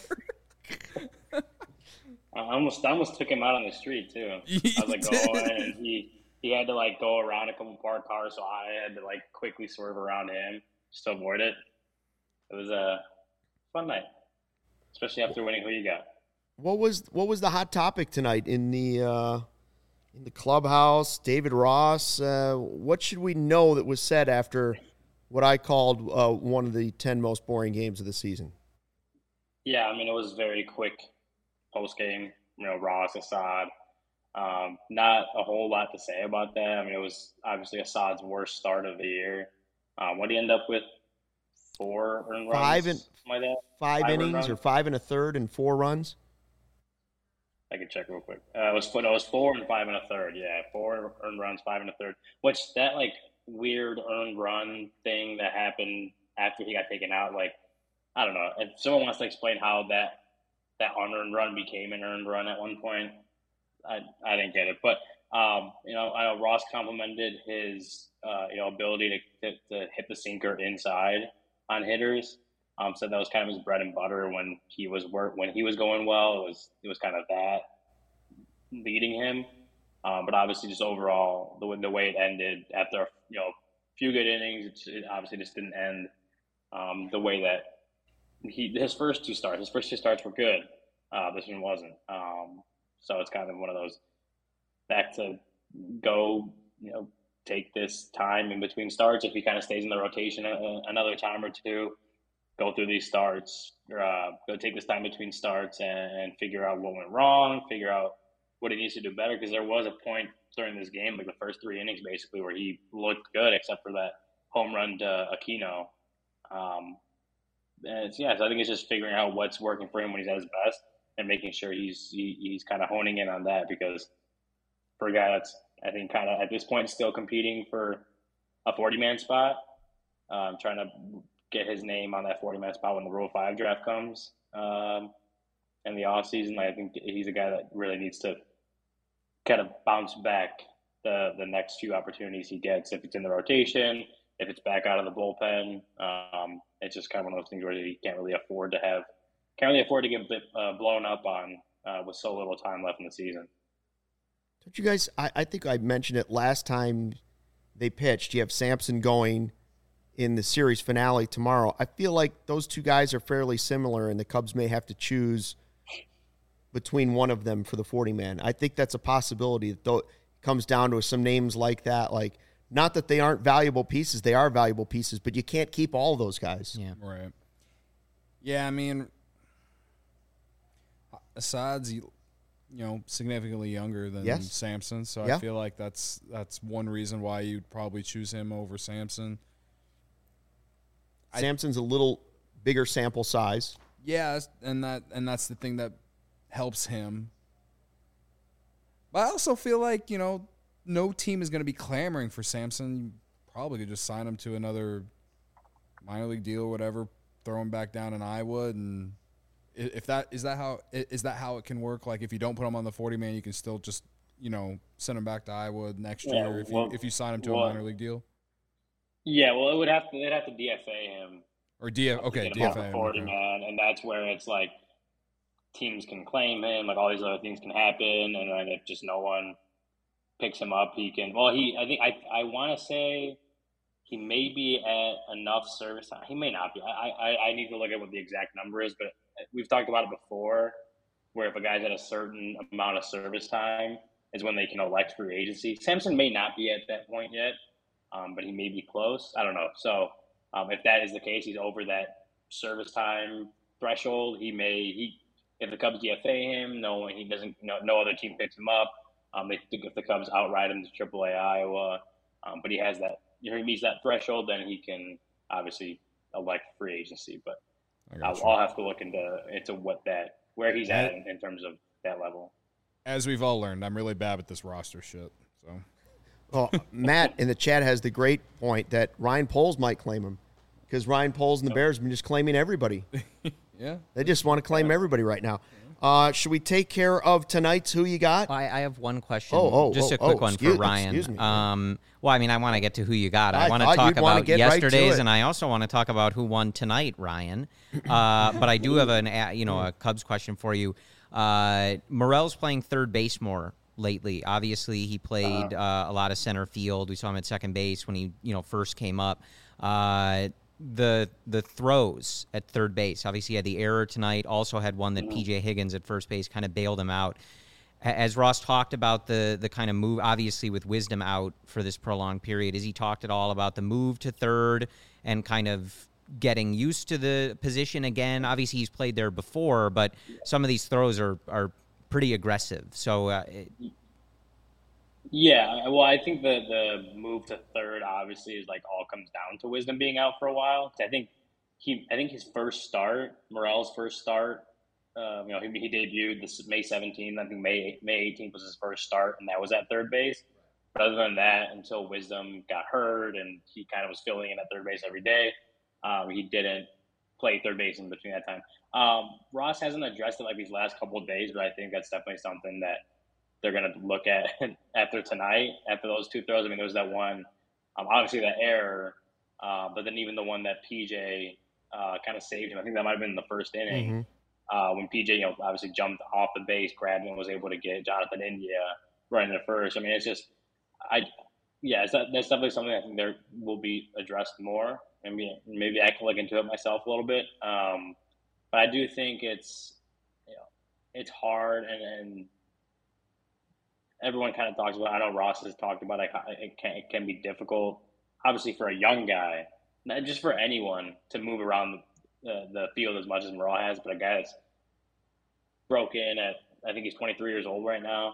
I almost took him out on the street too. I was like, going, and he had to like go around a couple parked cars, so I had to like quickly swerve around him just to avoid it. It was a fun night, especially after winning Who You Got. What was the hot topic tonight in the clubhouse? David Ross. What should we know that was said after what I called one of the 10 most boring games of the season? Yeah, I mean, it was very quick post game. Ross, Assad. Not a whole lot to say about that. I mean, it was obviously Assad's worst start of the year. What did he end up with? 4 earned runs? Five innings, or 5 1/3 and 4 runs? I can check real quick. It was 4 and 5 1/3. Yeah, 4 earned runs, 5 1/3. Which that like weird earned run thing that happened after he got taken out. Like, I don't know. If someone wants to explain how that unearned run became an earned run at one point, I didn't get it. But I know Ross complimented his ability to hit the sinker inside on hitters. Said that was kind of his bread and butter when he was going well. It was kind of that leading him. But obviously, just overall, the way it ended after a few good innings, it obviously just didn't end the way that his first two starts were good. This one wasn't. So it's kind of one of those back to go. Take this time in between starts. If he kind of stays in the rotation another time or two, go through these starts, go take this time between starts and figure out what went wrong, figure out what he needs to do better. Because there was a point during this game, like the first 3 innings, basically, where he looked good, except for that home run to Aquino. So I think it's just figuring out what's working for him when he's at his best and making sure he's kind of honing in on that. Because for a guy that's, I think, kind of at this point still competing for a 40-man spot, trying to get his name on that 40-man spot when the Rule 5 draft comes in the offseason. I think he's a guy that really needs to kind of bounce back the next few opportunities he gets. If it's in the rotation, if it's back out of the bullpen, it's just kind of one of those things where he can't really afford to get blown up on with so little time left in the season. Don't you guys, I think I mentioned it last time they pitched. You have Sampson going in the series finale tomorrow. I feel like those two guys are fairly similar, and the Cubs may have to choose between one of them for the 40-man. I think that's a possibility. Though it comes down to some names like that. Like, not that they aren't valuable pieces. They are valuable pieces, but you can't keep all those guys. Yeah. Right. Yeah, I mean, Assad's significantly younger than Sampson, so I feel like that's one reason why you'd probably choose him over Sampson. Sampson's a little bigger sample size. Yeah, and that's the thing that helps him. But I also feel like, no team is going to be clamoring for Sampson. You probably could just sign him to another minor league deal or whatever, throw him back down in Iowa, and is that how it can work? Like, if you don't put him on the 40-man, you can still just send him back to Iowa next year if you sign him to a minor league deal. Yeah, well, they'd have to DFA him or DFA him, 40-man, and that's where it's like teams can claim him, like all these other things can happen, and then if just no one picks him up, he can. Well, I want to say he may be at enough service time. He may not be. I need to look at what the exact number is, but we've talked about it before, where if a guy's at a certain amount of service time is when they can elect free agency. Sampson may not be at that point yet, but he may be close. I don't know. So if that is the case, he's over that service time threshold. If the Cubs DFA him, no other team picks him up. If the Cubs outright him to AAA Iowa, but he has that. If he meets that threshold, then he can obviously elect free agency. But I'll have to look into where he's at in terms of that level. As we've all learned, I'm really bad at this roster shit. So, Well, Matt in the chat has the great point that Ryan Poles might claim him because Ryan Poles and the Bears have been just claiming everybody. Yeah. They just want to claim everybody right now. Should we take care of tonight's Who You Got? I have one question. Just a quick one for Ryan. Excuse me. Well, I mean, I want to get to who you got. I want to thought talk you'd wanna about get right to yesterday's, it. and I also want to talk about who won tonight, Ryan. But I do have a Cubs question for you. Morel's playing third base more lately. Obviously, he played a lot of center field. We saw him at second base when he first came up. The throws at third base. Obviously, he had the error tonight. Also had one that P.J. Higgins at first base kind of bailed him out. As Ross talked about the kind of move, obviously with Wisdom out for this prolonged period, has he talked at all about the move to third and kind of getting used to the position again? Obviously, he's played there before, but some of these throws are pretty aggressive. So, Yeah, well, I think the move to third obviously is like all comes down to Wisdom being out for a while. I think his first start, Morel's first start, he debuted this May 17th. I think May 18th was his first start, and that was at third base. But other than that, until Wisdom got hurt and he kind of was filling in at third base every day, he didn't play third base in between that time. Ross hasn't addressed it like these last couple of days, but I think that's definitely something that they're going to look at after tonight, after those two throws. I mean, there was that one, obviously that error, but then even the one that PJ kind of saved him. I think that might have been in the first inning when PJ, obviously jumped off the base, grabbed and was able to get Jonathan India right into first. I mean, it's just, that's definitely something I think there will be addressed more. I mean, maybe I can look into it myself a little bit. But I do think it's hard and everyone kind of talks about, I know Ross has talked about it can be difficult, obviously for a young guy, not just for anyone to move around the field as much as Morel has, but a guy that's broken at, I think he's 23 years old right now.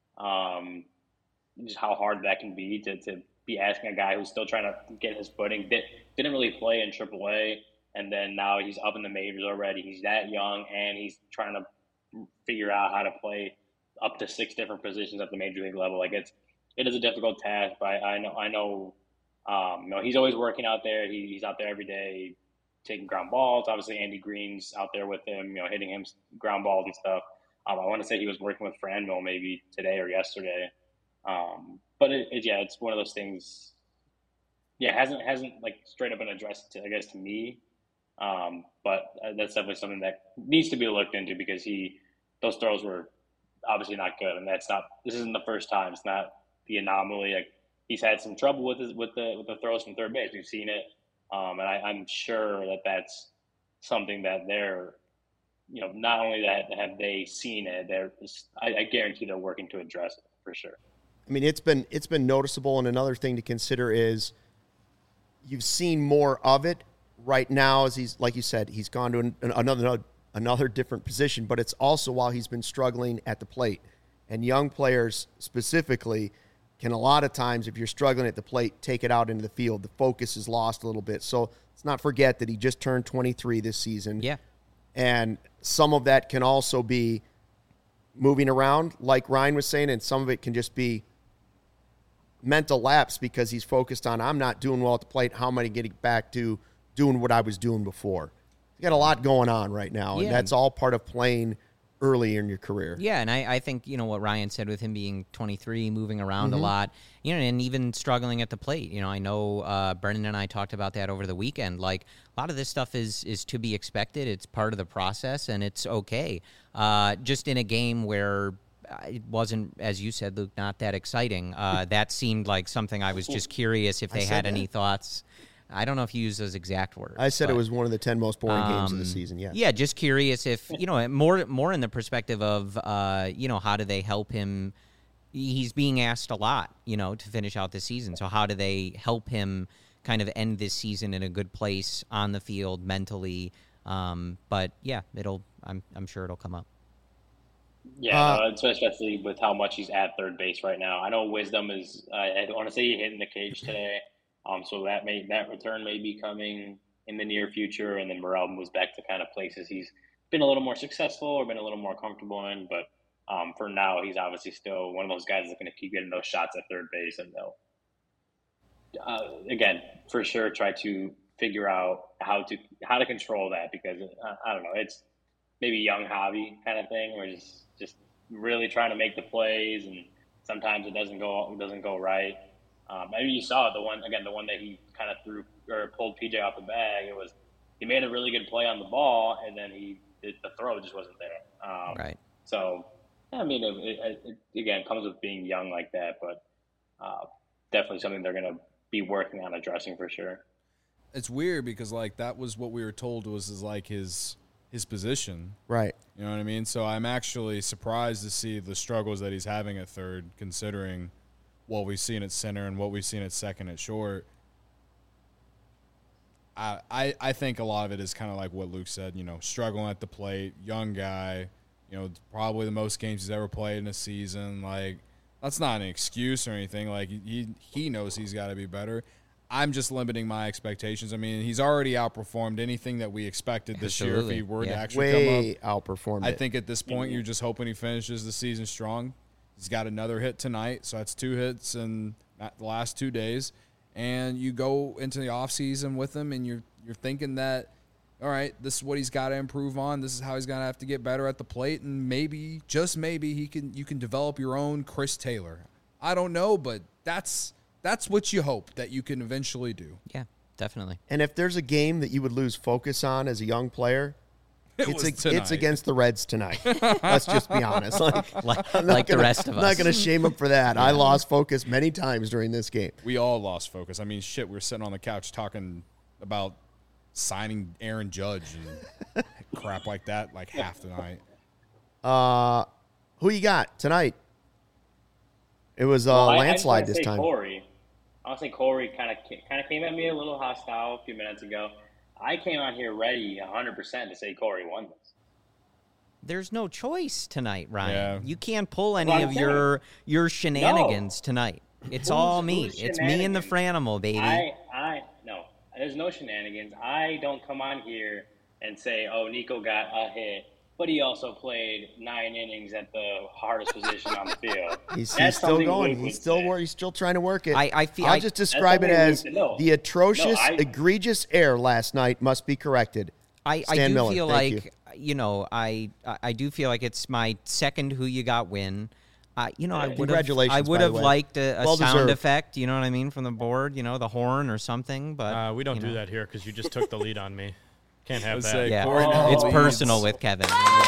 Just how hard that can be to be asking a guy who's still trying to get his footing, didn't really play in AAA, and then now he's up in the majors already. He's that young, and he's trying to figure out how to play up to 6 different positions at the major league level. Like it is a difficult task, but I know, he's always working out there. He's out there every day taking ground balls. Obviously, Andy Green's out there with him, hitting him ground balls and stuff. I want to say he was working with Franmil maybe today or yesterday. But it's one of those things. Yeah, hasn't like straight up been addressed to me. But that's definitely something that needs to be looked into because those throws were obviously not good, and this isn't the first time. It's not the anomaly. Like he's had some trouble with the throws from third base. We've seen it, and I'm sure that's something that they're, not only that have they seen it, I guarantee they're working to address it for sure. I mean, it's been noticeable, and another thing to consider is you've seen more of it right now as he's, like you said, he's gone to another different position, but it's also while he's been struggling at the plate. And young players specifically can a lot of times, if you're struggling at the plate, take it out into the field. The focus is lost a little bit. So let's not forget that he just turned 23 this season. Yeah. And some of that can also be moving around, like Ryan was saying, and some of it can just be mental lapse because he's focused on, I'm not doing well at the plate. How am I getting back to doing what I was doing before? You got a lot going on right now, and that's all part of playing early in your career. Yeah, and I think, what Ryan said with him being 23, moving around a lot, and even struggling at the plate. I know Brendan and I talked about that over the weekend. Like, a lot of this stuff is to be expected. It's part of the process, and it's okay. Just in a game where it wasn't, as you said, Luke, not that exciting. That seemed like something I was just curious if they had any thoughts. I don't know if you used those exact words. I said it was one of the 10 most boring games of the season, yeah. Yeah, just curious if, more in the perspective of, how do they help him? He's being asked a lot, to finish out the season. So how do they help him kind of end this season in a good place on the field mentally? But, yeah, I'm sure it'll come up. Yeah, especially with how much he's at third base right now. I know Wisdom is, I want to say he hit in the cage today. So that return may be coming in the near future, and then Morel moves back to kind of places he's been a little more successful or been a little more comfortable in. But For now, he's obviously still one of those guys that's going to keep getting those shots at third base, and they'll again for sure try to figure out how to control that, because I don't know, it's maybe young hobby kind of thing where just really trying to make the plays, and sometimes it doesn't go right. Maybe you saw it, the one that he kind of threw or pulled PJ off the bag. He made a really good play on the ball, and then the throw just wasn't there. Right. So I mean, it again comes with being young like that, but definitely something they're going to be working on addressing for sure. It's weird because like that was what we were told was like his position. Right. You know what I mean? So I'm actually surprised to see the struggles that he's having at third, considering what we've seen at center and what we've seen at second at short. I think a lot of it is kind of like what Luke said, you know, struggling at the plate, young guy, you know, probably the most games he's ever played in a season. Like, that's not an excuse or anything. Like, he knows he's got to be better. I'm just limiting my expectations. I mean, he's already outperformed anything that we expected this year if he were to actually way come up. Outperformed I it. think at this point you're just hoping he finishes the season strong. He's got another hit tonight, so that's 2 hits in the last 2 days. And you go into the offseason with him, and you're thinking that, all right, this is what he's got to improve on. This is how he's going to have to get better at the plate, and maybe, just maybe, you can develop your own Chris Taylor. I don't know, but that's what you hope that you can eventually do. Yeah, definitely. And if there's a game that you would lose focus on as a young player, it's against the Reds tonight. Let's just be honest. Like the rest of us. I'm not going to shame him for that. Yeah. I lost focus many times during this game. We all lost focus. I mean, shit, we were sitting on the couch talking about signing Aaron Judge and crap like that like half the night. Who you got tonight? It was landslide this time. Corey. I would say Corey kind of came at me a little hostile a few minutes ago. I came out here ready 100% to say Corey won this. There's no choice tonight, Ryan. Yeah. You can't pull any of your shenanigans tonight. It's all me. It's me and the Franimal, baby. No. There's no shenanigans. I don't come on here and say, oh, Nico got a hit, but he also played 9 innings at the hardest position on the field. He's still going. He's still trying to work it. I'll just describe it as the atrocious, egregious error last night must be corrected. I do feel like, you know, I do feel like it's my second Who You Got win. Congratulations, I would have liked a sound deserved. effect, you know what I mean, from the board, you know, the horn or something. But we don't do that here because you just took the lead on me. Can't have Let's that. say yeah, Corey now it's leads. personal with Kevin.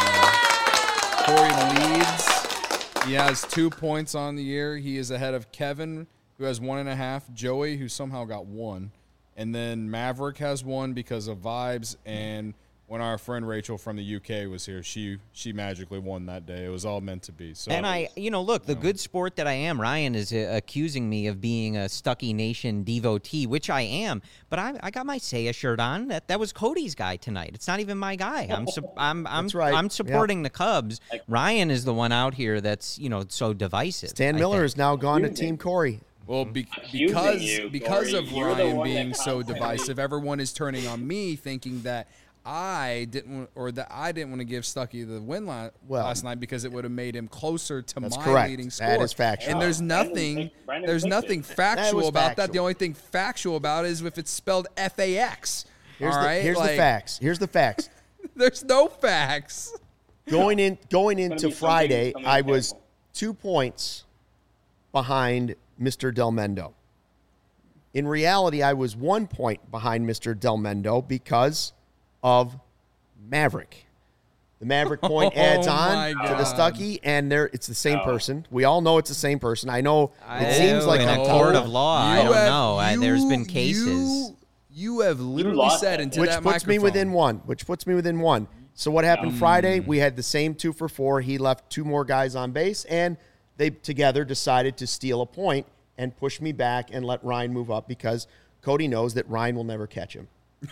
Corey leads. He has 2 points on the year. He is ahead of Kevin, who has 1.5. Joey, who somehow got 1. And then Maverick has 1 because of vibes. And when our friend Rachel from the UK was here, she magically won that day. It was all meant to be. So, And the good sport that I am, Ryan is accusing me of being a Stuckey Nation devotee, which I am. But I got my Seiya shirt on. That was Cody's guy tonight. It's not even my guy. That's right. I'm supporting the Cubs. Ryan is the one out here that's so divisive. Stan Miller has now gone to Team Corey. Well, because of Ryan being so divisive, everyone is turning on me, thinking that I didn't want to give Stuckey the win last night because it would have made him closer to my correct. leading score. That is factual. And there's nothing factual about that. The only thing factual about it is if it's spelled FAX. Here's the facts. Here's the facts. There's no facts. Going into Friday, I was 2 points behind Mr. Del Mendo. In reality, I was 1 point behind Mr. Del Mendo because of Maverick. The Maverick point adds on to the Stuckey, and it's the same person. We all know it's the same person. I know it seems like in a court of law. I don't know. There's been cases. You have literally said into that microphone. Which puts me within one. So what happened Friday? We had the same 2 for 4. He left 2 more guys on base, and they together decided to steal a point and push me back and let Ryan move up because Cody knows that Ryan will never catch him.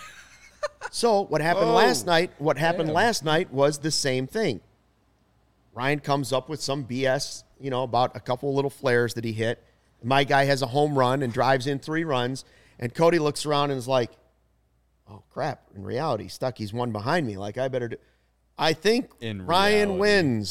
So what happened last night? What happened last night was the same thing. Ryan comes up with some BS, about a couple little flares that he hit. My guy has a home run and drives in 3 runs, and Cody looks around and is like, "Oh crap! In reality, Stuckey's 1 behind me. Like I better do." I think Ryan wins,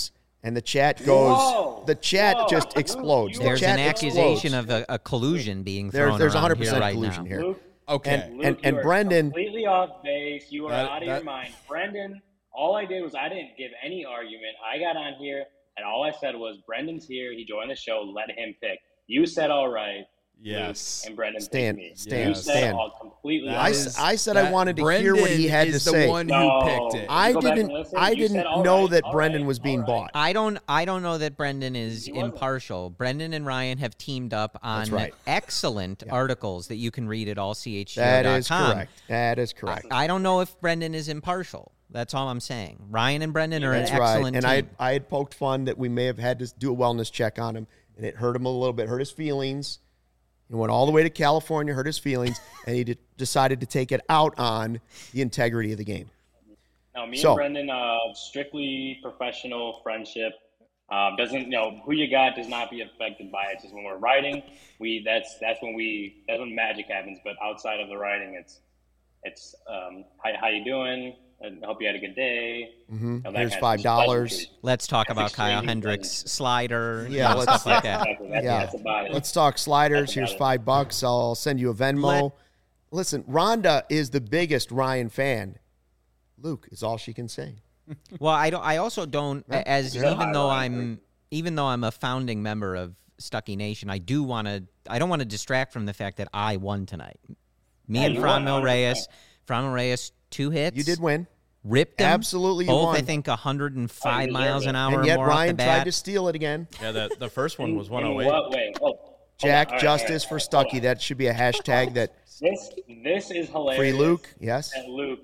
And the chat goes. Whoa, the chat just explodes. The There's chat an accusation explodes. of a collusion being thrown There's around 100% here right collusion now. here. Luke, Okay. Luke, And you are Brendan- completely off base. You are That- out of that- your mind. Brendan, all I did was I didn't give any argument. I got on here, and all I said was, Brendan's here. He joined the show. Let him pick. You said all right. Yes. Luke, and Brendan Stan, picked me. Stan, You said Stan. all completely That I opposite. s- I said I wanted to hear what he Brendan had to is say. the one who No. picked it. I Go back didn't. and listen. I You said, didn't all know right, that all Brendan right, was being all bought. right. I don't know that Brendan is He wasn't. impartial. Brendan and Ryan have teamed up on That's right. excellent articles that you can read at allchgo.com. That is correct. That is correct. I don't know if Brendan is impartial. That's all I'm saying. Ryan and Brendan are That's an right. excellent And team. I had poked fun that we may have had to do a wellness check on him, and it hurt him a little bit, hurt his feelings. He went all the way to California, hurt his feelings, and he decided to take it out on the integrity of the game. No, me So- and Brendan, strictly professional friendship. Doesn't who you got does not be affected by it. Just when we're writing, that's when magic happens. But outside of the writing, it's how you doing? I hope you had a good day. That Here's kind of $5. pleasantries. Let's talk That's about Kyle extremely Hendricks' slider, Yeah, let's- stuff like that. Exactly. Yeah. That's about it. Let's talk sliders. That's Here's about $5. I'll send you a Venmo. Listen, Rhonda is the biggest Ryan fan. Luke is all she can say. Well, I also don't as Yeah. even though I'm a founding member of Stuckey Nation, I don't want to distract from the fact that I won tonight. Me and you won, Franmil 100%. Reyes, 2 hits. You did win. Ripped them. Absolutely, you Both, won. I think, 105 deserve miles an it. hour And yet or more off the Ryan tried bat. to steal it again. Yeah, the first one was In 108. what way? Oh, hold Jack, on. All right, justice all for right, hold Stuckey. on. That should be a hashtag that This is hilarious. free Luke. Yes. That Luke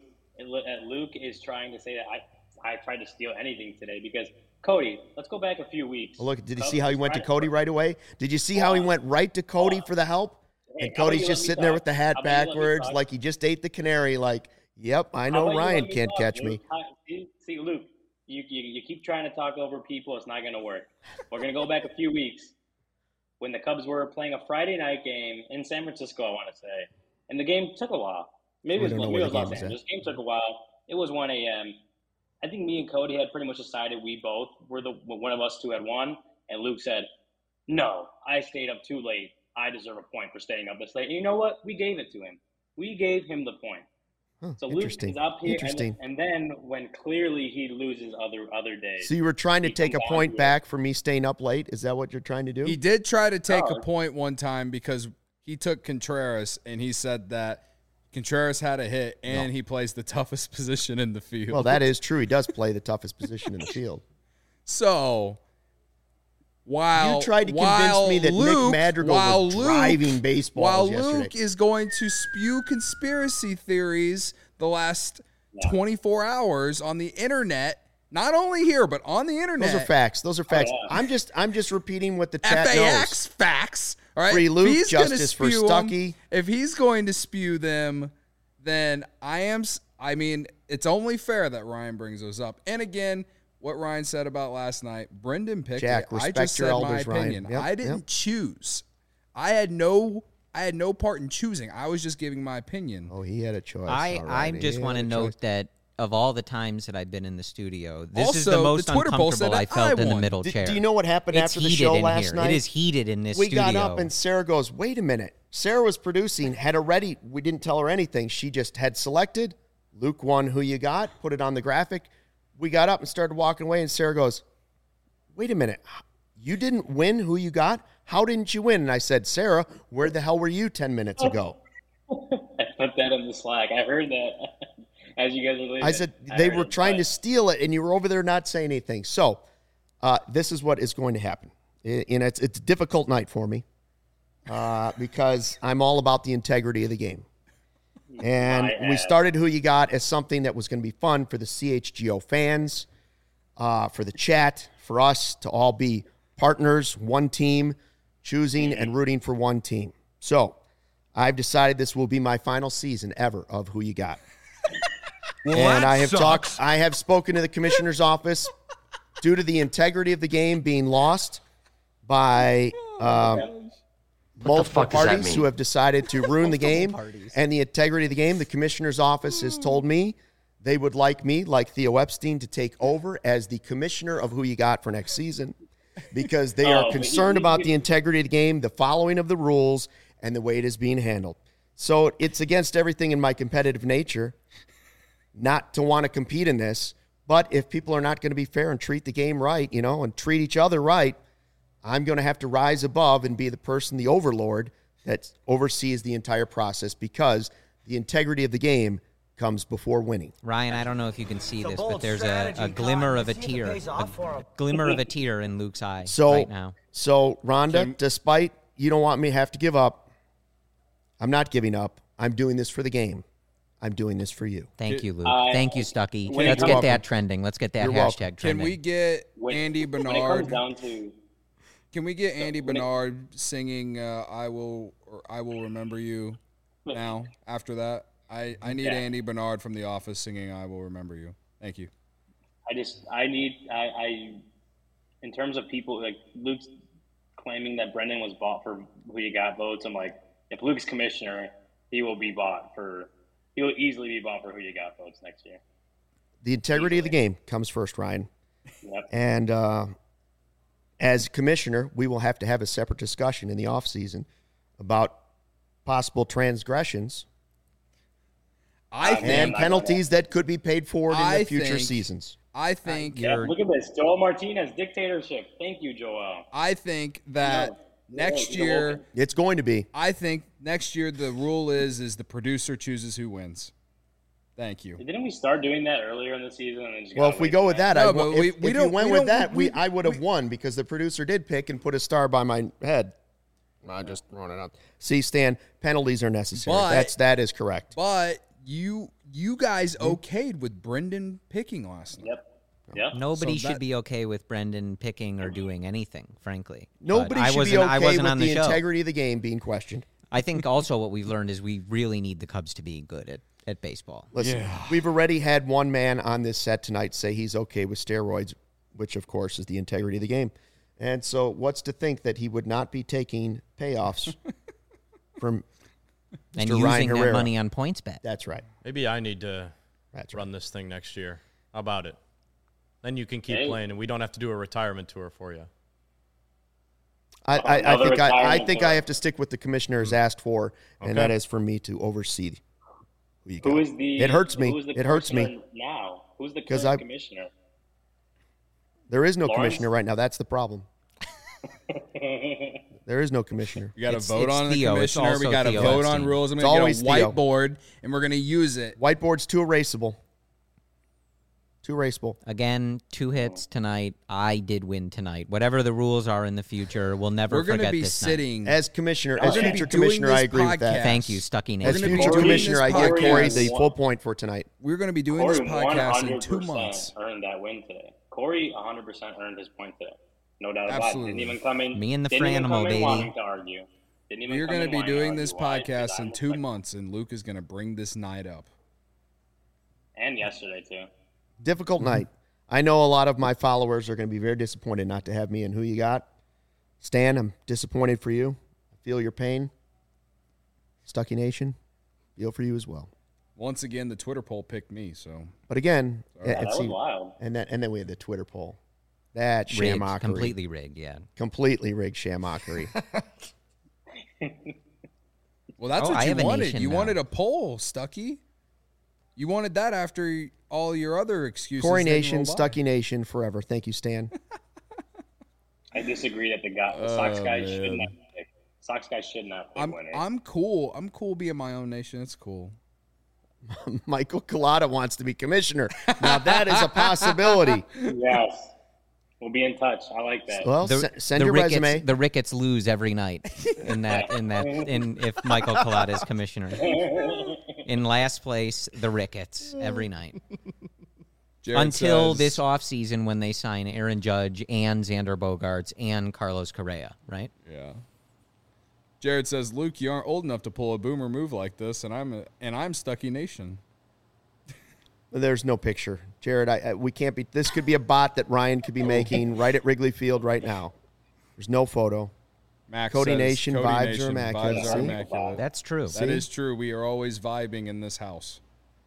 is trying to say that I tried to steal anything today because Cody. Let's go back a few weeks. Well, look, did you Cubs see how he was went to trying Cody right away? Did you see how he went right to Cody for the help? Hey, And how about Cody's you just let me sitting there talk? with the hat How about you let me backwards talk? like he just ate the canary like, yep, I How know about you Ryan let me can't talk, catch Luke? me. See, Luke, you keep trying to talk over people. It's not going to work. We're going to go back a few weeks when the Cubs were playing a Friday night game in San Francisco, I want to say. And the game took a while. Maybe We don't know where the game Los was at. Angeles. The game took a while. It was 1 a.m. I think me and Cody had pretty much decided we both were one of us two had won. And Luke said, no, I stayed up too late. I deserve a point for staying up this late. And you know what? We gave it to him. We gave him the point. Huh, So Luke interesting. is up here, Interesting. and then when clearly he loses other days. So you were trying to he take a comes on point here. back for me staying up late? Is that what you're trying to do? He did try to take Oh. a point one time because he took Contreras and he said that Contreras had a hit and he plays the toughest position in the field. Well, that is true. He does play the toughest position in the field. So while You tried to convince while me that Nick Luke, Madrigal while was Luke- driving baseballs while yesterday. Luke is going to spew conspiracy theories the last 24 hours on the internet, not only here but on the internet. Those are facts. Those are facts. yeah. I'm just repeating what the chat FAX knows. facts. All right. Free If Luke, he's gonna justice for spew 'em- Stuckey. If he's going to spew them, then I mean, it's only fair that Ryan brings those up. And again, what Ryan said about last night, Brendan picked Jack, it. I respect just your said elders, my Ryan. opinion. Yep, I didn't yep. choose. I had no part in choosing. I was just giving my opinion. Oh, he had a choice. I All right. He just had want to a note choice. that of all the times that I've been in the studio, this is the Also, most the Twitter poll said uncomfortable I that felt I in the won. middle Do chair. you know what happened It's after the heated show in last here. night? It is heated in this We studio. got up and Sarah goes, wait a minute. Sarah was producing, had already, we didn't tell her anything. She just had selected. Luke won who you got, put it on the graphic. We got up and started walking away, and Sarah goes, wait a minute. You didn't win who you got? How didn't you win? And I said, Sarah, where the hell were you 10 minutes ago? I put that in the Slack. I heard that as you guys were leaving. I said they heard were it, trying to but steal it, and you were over there not saying anything. So this is what is going to happen. And it's a difficult night for me because I'm all about the integrity of the game. And we started Who You Got as something that was going to be fun for the CHGO fans, for the chat, for us to all be partners, one team, choosing and rooting for one team. So I've decided this will be my final season ever of Who You Got. And I have spoken to the commissioner's office due to the integrity of the game being lost by multiple parties who have decided to ruin the game and the integrity of the game. The commissioner's office has told me they would like me, like Theo Epstein, to take over as the commissioner of Who You Got for next season because they are concerned about the integrity of the game, the following of the rules, and the way it is being handled. So it's against everything in my competitive nature not to want to compete in this. But if people are not going to be fair and treat the game right, and treat each other right, I'm going to have to rise above and be the person, the overlord, that oversees the entire process because the integrity of the game comes before winning. Ryan, I don't know if you can see this, but there's a glimmer of a tear, a glimmer of a tear in Luke's eye right now. So, Rhonda, despite you don't want me to have to give up, I'm not giving up. I'm doing this for the game. I'm doing this for you. Thank you, Luke. Thank you, Stuckey. Let's get that trending. Let's get that hashtag trending. Can we get Andy Bernard? When it comes down to, can we get Andy Bernard singing "I Will" or "I Will Remember You"? Now, after that, I need Andy Bernard from The Office singing "I Will Remember You." Thank you. In terms of people like Luke's claiming that Brendan was bought for Who You Got votes. I'm like, if Luke's commissioner, he will easily be bought for Who You Got votes next year. The integrity of the game comes first, Ryan. Yep. And as commissioner, we will have to have a separate discussion in the offseason about possible transgressions and penalties that could be paid forward in the future seasons. I think look at this. Joel Martinez, dictatorship. Thank you, Joel. I think that next year it's going to be. I think next year the rule is the producer chooses who wins. Thank you. Didn't we start doing that earlier in the season? And then just well, if we go with that, I would have won because the producer did pick and put a star by my head. I just throwing it up. See, Stan, penalties are necessary. That is correct. But you guys okayed with Brendan picking last night. Yep. Nobody should be okay with Brendan picking or doing anything, frankly. Nobody should be okay with the integrity of the game being questioned. I think also what we've learned is we really need the Cubs to be good at baseball. Listen, we've already had one man on this set tonight say he's okay with steroids, which, of course, is the integrity of the game. And so what's to think that he would not be taking payoffs from and Mr. using Ryan Herrera. that money on PointsBet. That's right. Maybe I need to run this thing next year. How about it? Then you can keep playing, and we don't have to do a retirement tour for you. I think I have to stick with the commissioner has asked for, and that is for me to oversee. It hurts me. It hurts me now. Who's the current commissioner? There is no commissioner right now. That's the problem. There is no commissioner. You got to vote on the commissioner. We got to vote on rules. I'm going to get a whiteboard, and we're going to use it. Whiteboard's too erasable. Too erasable. Again, 2 hits tonight. I did win tonight. Whatever the rules are in the future, we'll never forget this night. We're going to be sitting. As commissioner, as future commissioner, I agree with that. Thank you, Stuckey Nation. As future commissioner, I give Corey the full point for tonight. We're going to be doing this podcast in 2 months. Earned that win today. Corey 100% earned his point today. No doubt about it. Didn't even come in. Me and the Franimal, baby. Wanting to argue. We're going to be doing this podcast in 2 months, and Luke is going to bring this night up. And yesterday, too. Difficult night. I know a lot of my followers are going to be very disappointed not to have me in Who You Got. Stan, I'm disappointed for you. I feel your pain. Stuckey Nation, feel for you as well. Once again, the Twitter poll picked me. So, but again, that was wild. And then we had the Twitter poll. That shamockery. Completely rigged, yeah. Completely rigged shamockery. Well, that's what you wanted. You wanted a poll, Stuckey. You wanted that after all your other excuses. Corey Nation, Stuckey Nation, forever. Thank you, Stan. I disagree that the Sox guy should not pick. Sox guy should not pick winners. I'm cool. I'm cool being my own nation. It's cool. Michael Collada wants to be commissioner. Now that is a possibility. Yes. We'll be in touch. I like that. Well, send your resume. The Ricketts lose every night if Michael Collada is commissioner. In last place, the Ricketts every night. Until this offseason when they sign Aaron Judge and Xander Bogaerts and Carlos Correa, right? Yeah. Jared says, Luke, you aren't old enough to pull a boomer move like this, and I'm Stuckey Nation. There's no picture, Jared. We can't be. This could be a bot that Ryan could be making right at Wrigley Field right now. There's no photo. Max Cody says, Nation vibes are immaculate. Vibes are immaculate. That's true. That is true. We are always vibing in this house.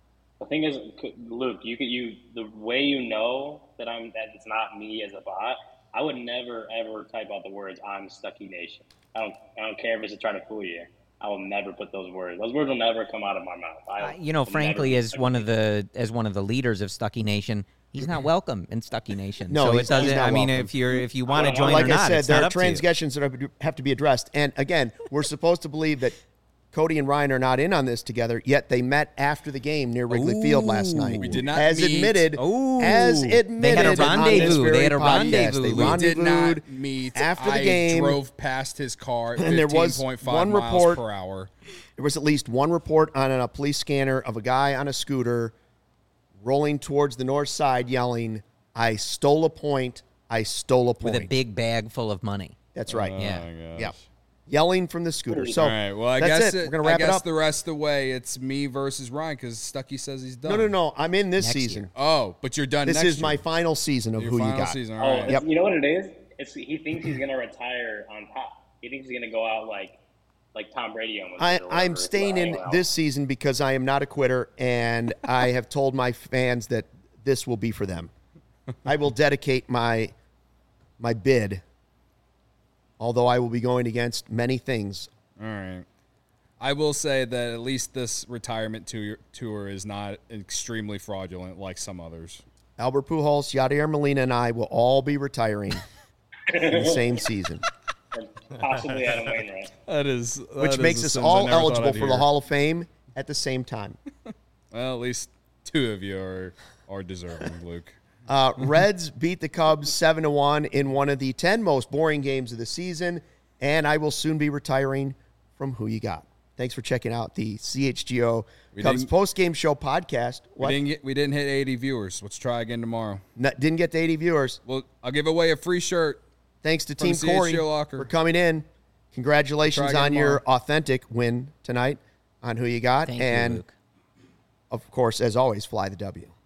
The thing is, Luke, the way you know that it's not me as a bot. I would never ever type out the words "I'm Stuckey Nation." I don't care if it's to try to fool you. I will never put those words. Those words will never come out of my mouth. Frankly, as one of the leaders of Stuckey Nation, he's not welcome in Stuckey Nation. No, so he's not welcome. If you want to join like or not, I said, it's there not are up to you. transgressions that have to be addressed. And again, we're supposed to believe that Cody and Ryan are not in on this together, yet they met after the game near Wrigley Field last night. We did not as meet. admitted. As admitted, They had a rendezvous. They had a rendezvous. They We did not rendezvoused meet. after the I game. drove past his car at And there was 15.5 one miles report- per hour. There was at least one report on a police scanner of a guy on a scooter rolling towards the north side yelling, "I stole a point. I stole a point." With a big bag full of money. That's right. Yeah. Oh, my gosh. Yeah. Yelling from the scooter. So All right. Well, I that's guess it. We're going to wrap I it guess up. the rest of the way, it's me versus Ryan because Stuckey says he's done. No. I'm in this Next season. year. Oh, but you're done. This next is my year. final season of Your Who You final Got. season. Oh, All right. Yep. you know what it is? He thinks he's gonna retire on top. He thinks he's gonna go out like Tom Brady almost. did or I'm whatever. staying in Wow. this season because I am not a quitter, and I have told my fans that this will be for them. I will dedicate my bid, although I will be going against many things. All right. I will say that at least this retirement tour is not extremely fraudulent like some others. Albert Pujols, Yadier Molina, and I will all be retiring in the same season, And possibly Adam Wainwright. which makes us all eligible for the Hall of Fame at the same time. Well, at least two of you are deserving, Luke. Reds beat the Cubs 7-1 in one of the 10 most boring games of the season, and I will soon be retiring from Who You Got. Thanks for checking out the CHGO Cubs post-game show podcast. What? We didn't hit 80 viewers. Let's try again tomorrow. Didn't get to 80 viewers. Well, I'll give away a free shirt. Thanks to From Team Corey CHGO Locker. for coming in. Congratulations Try on again your tomorrow. authentic win tonight on Who You Got. Thank and, you, Luke. of course, as always, fly the W.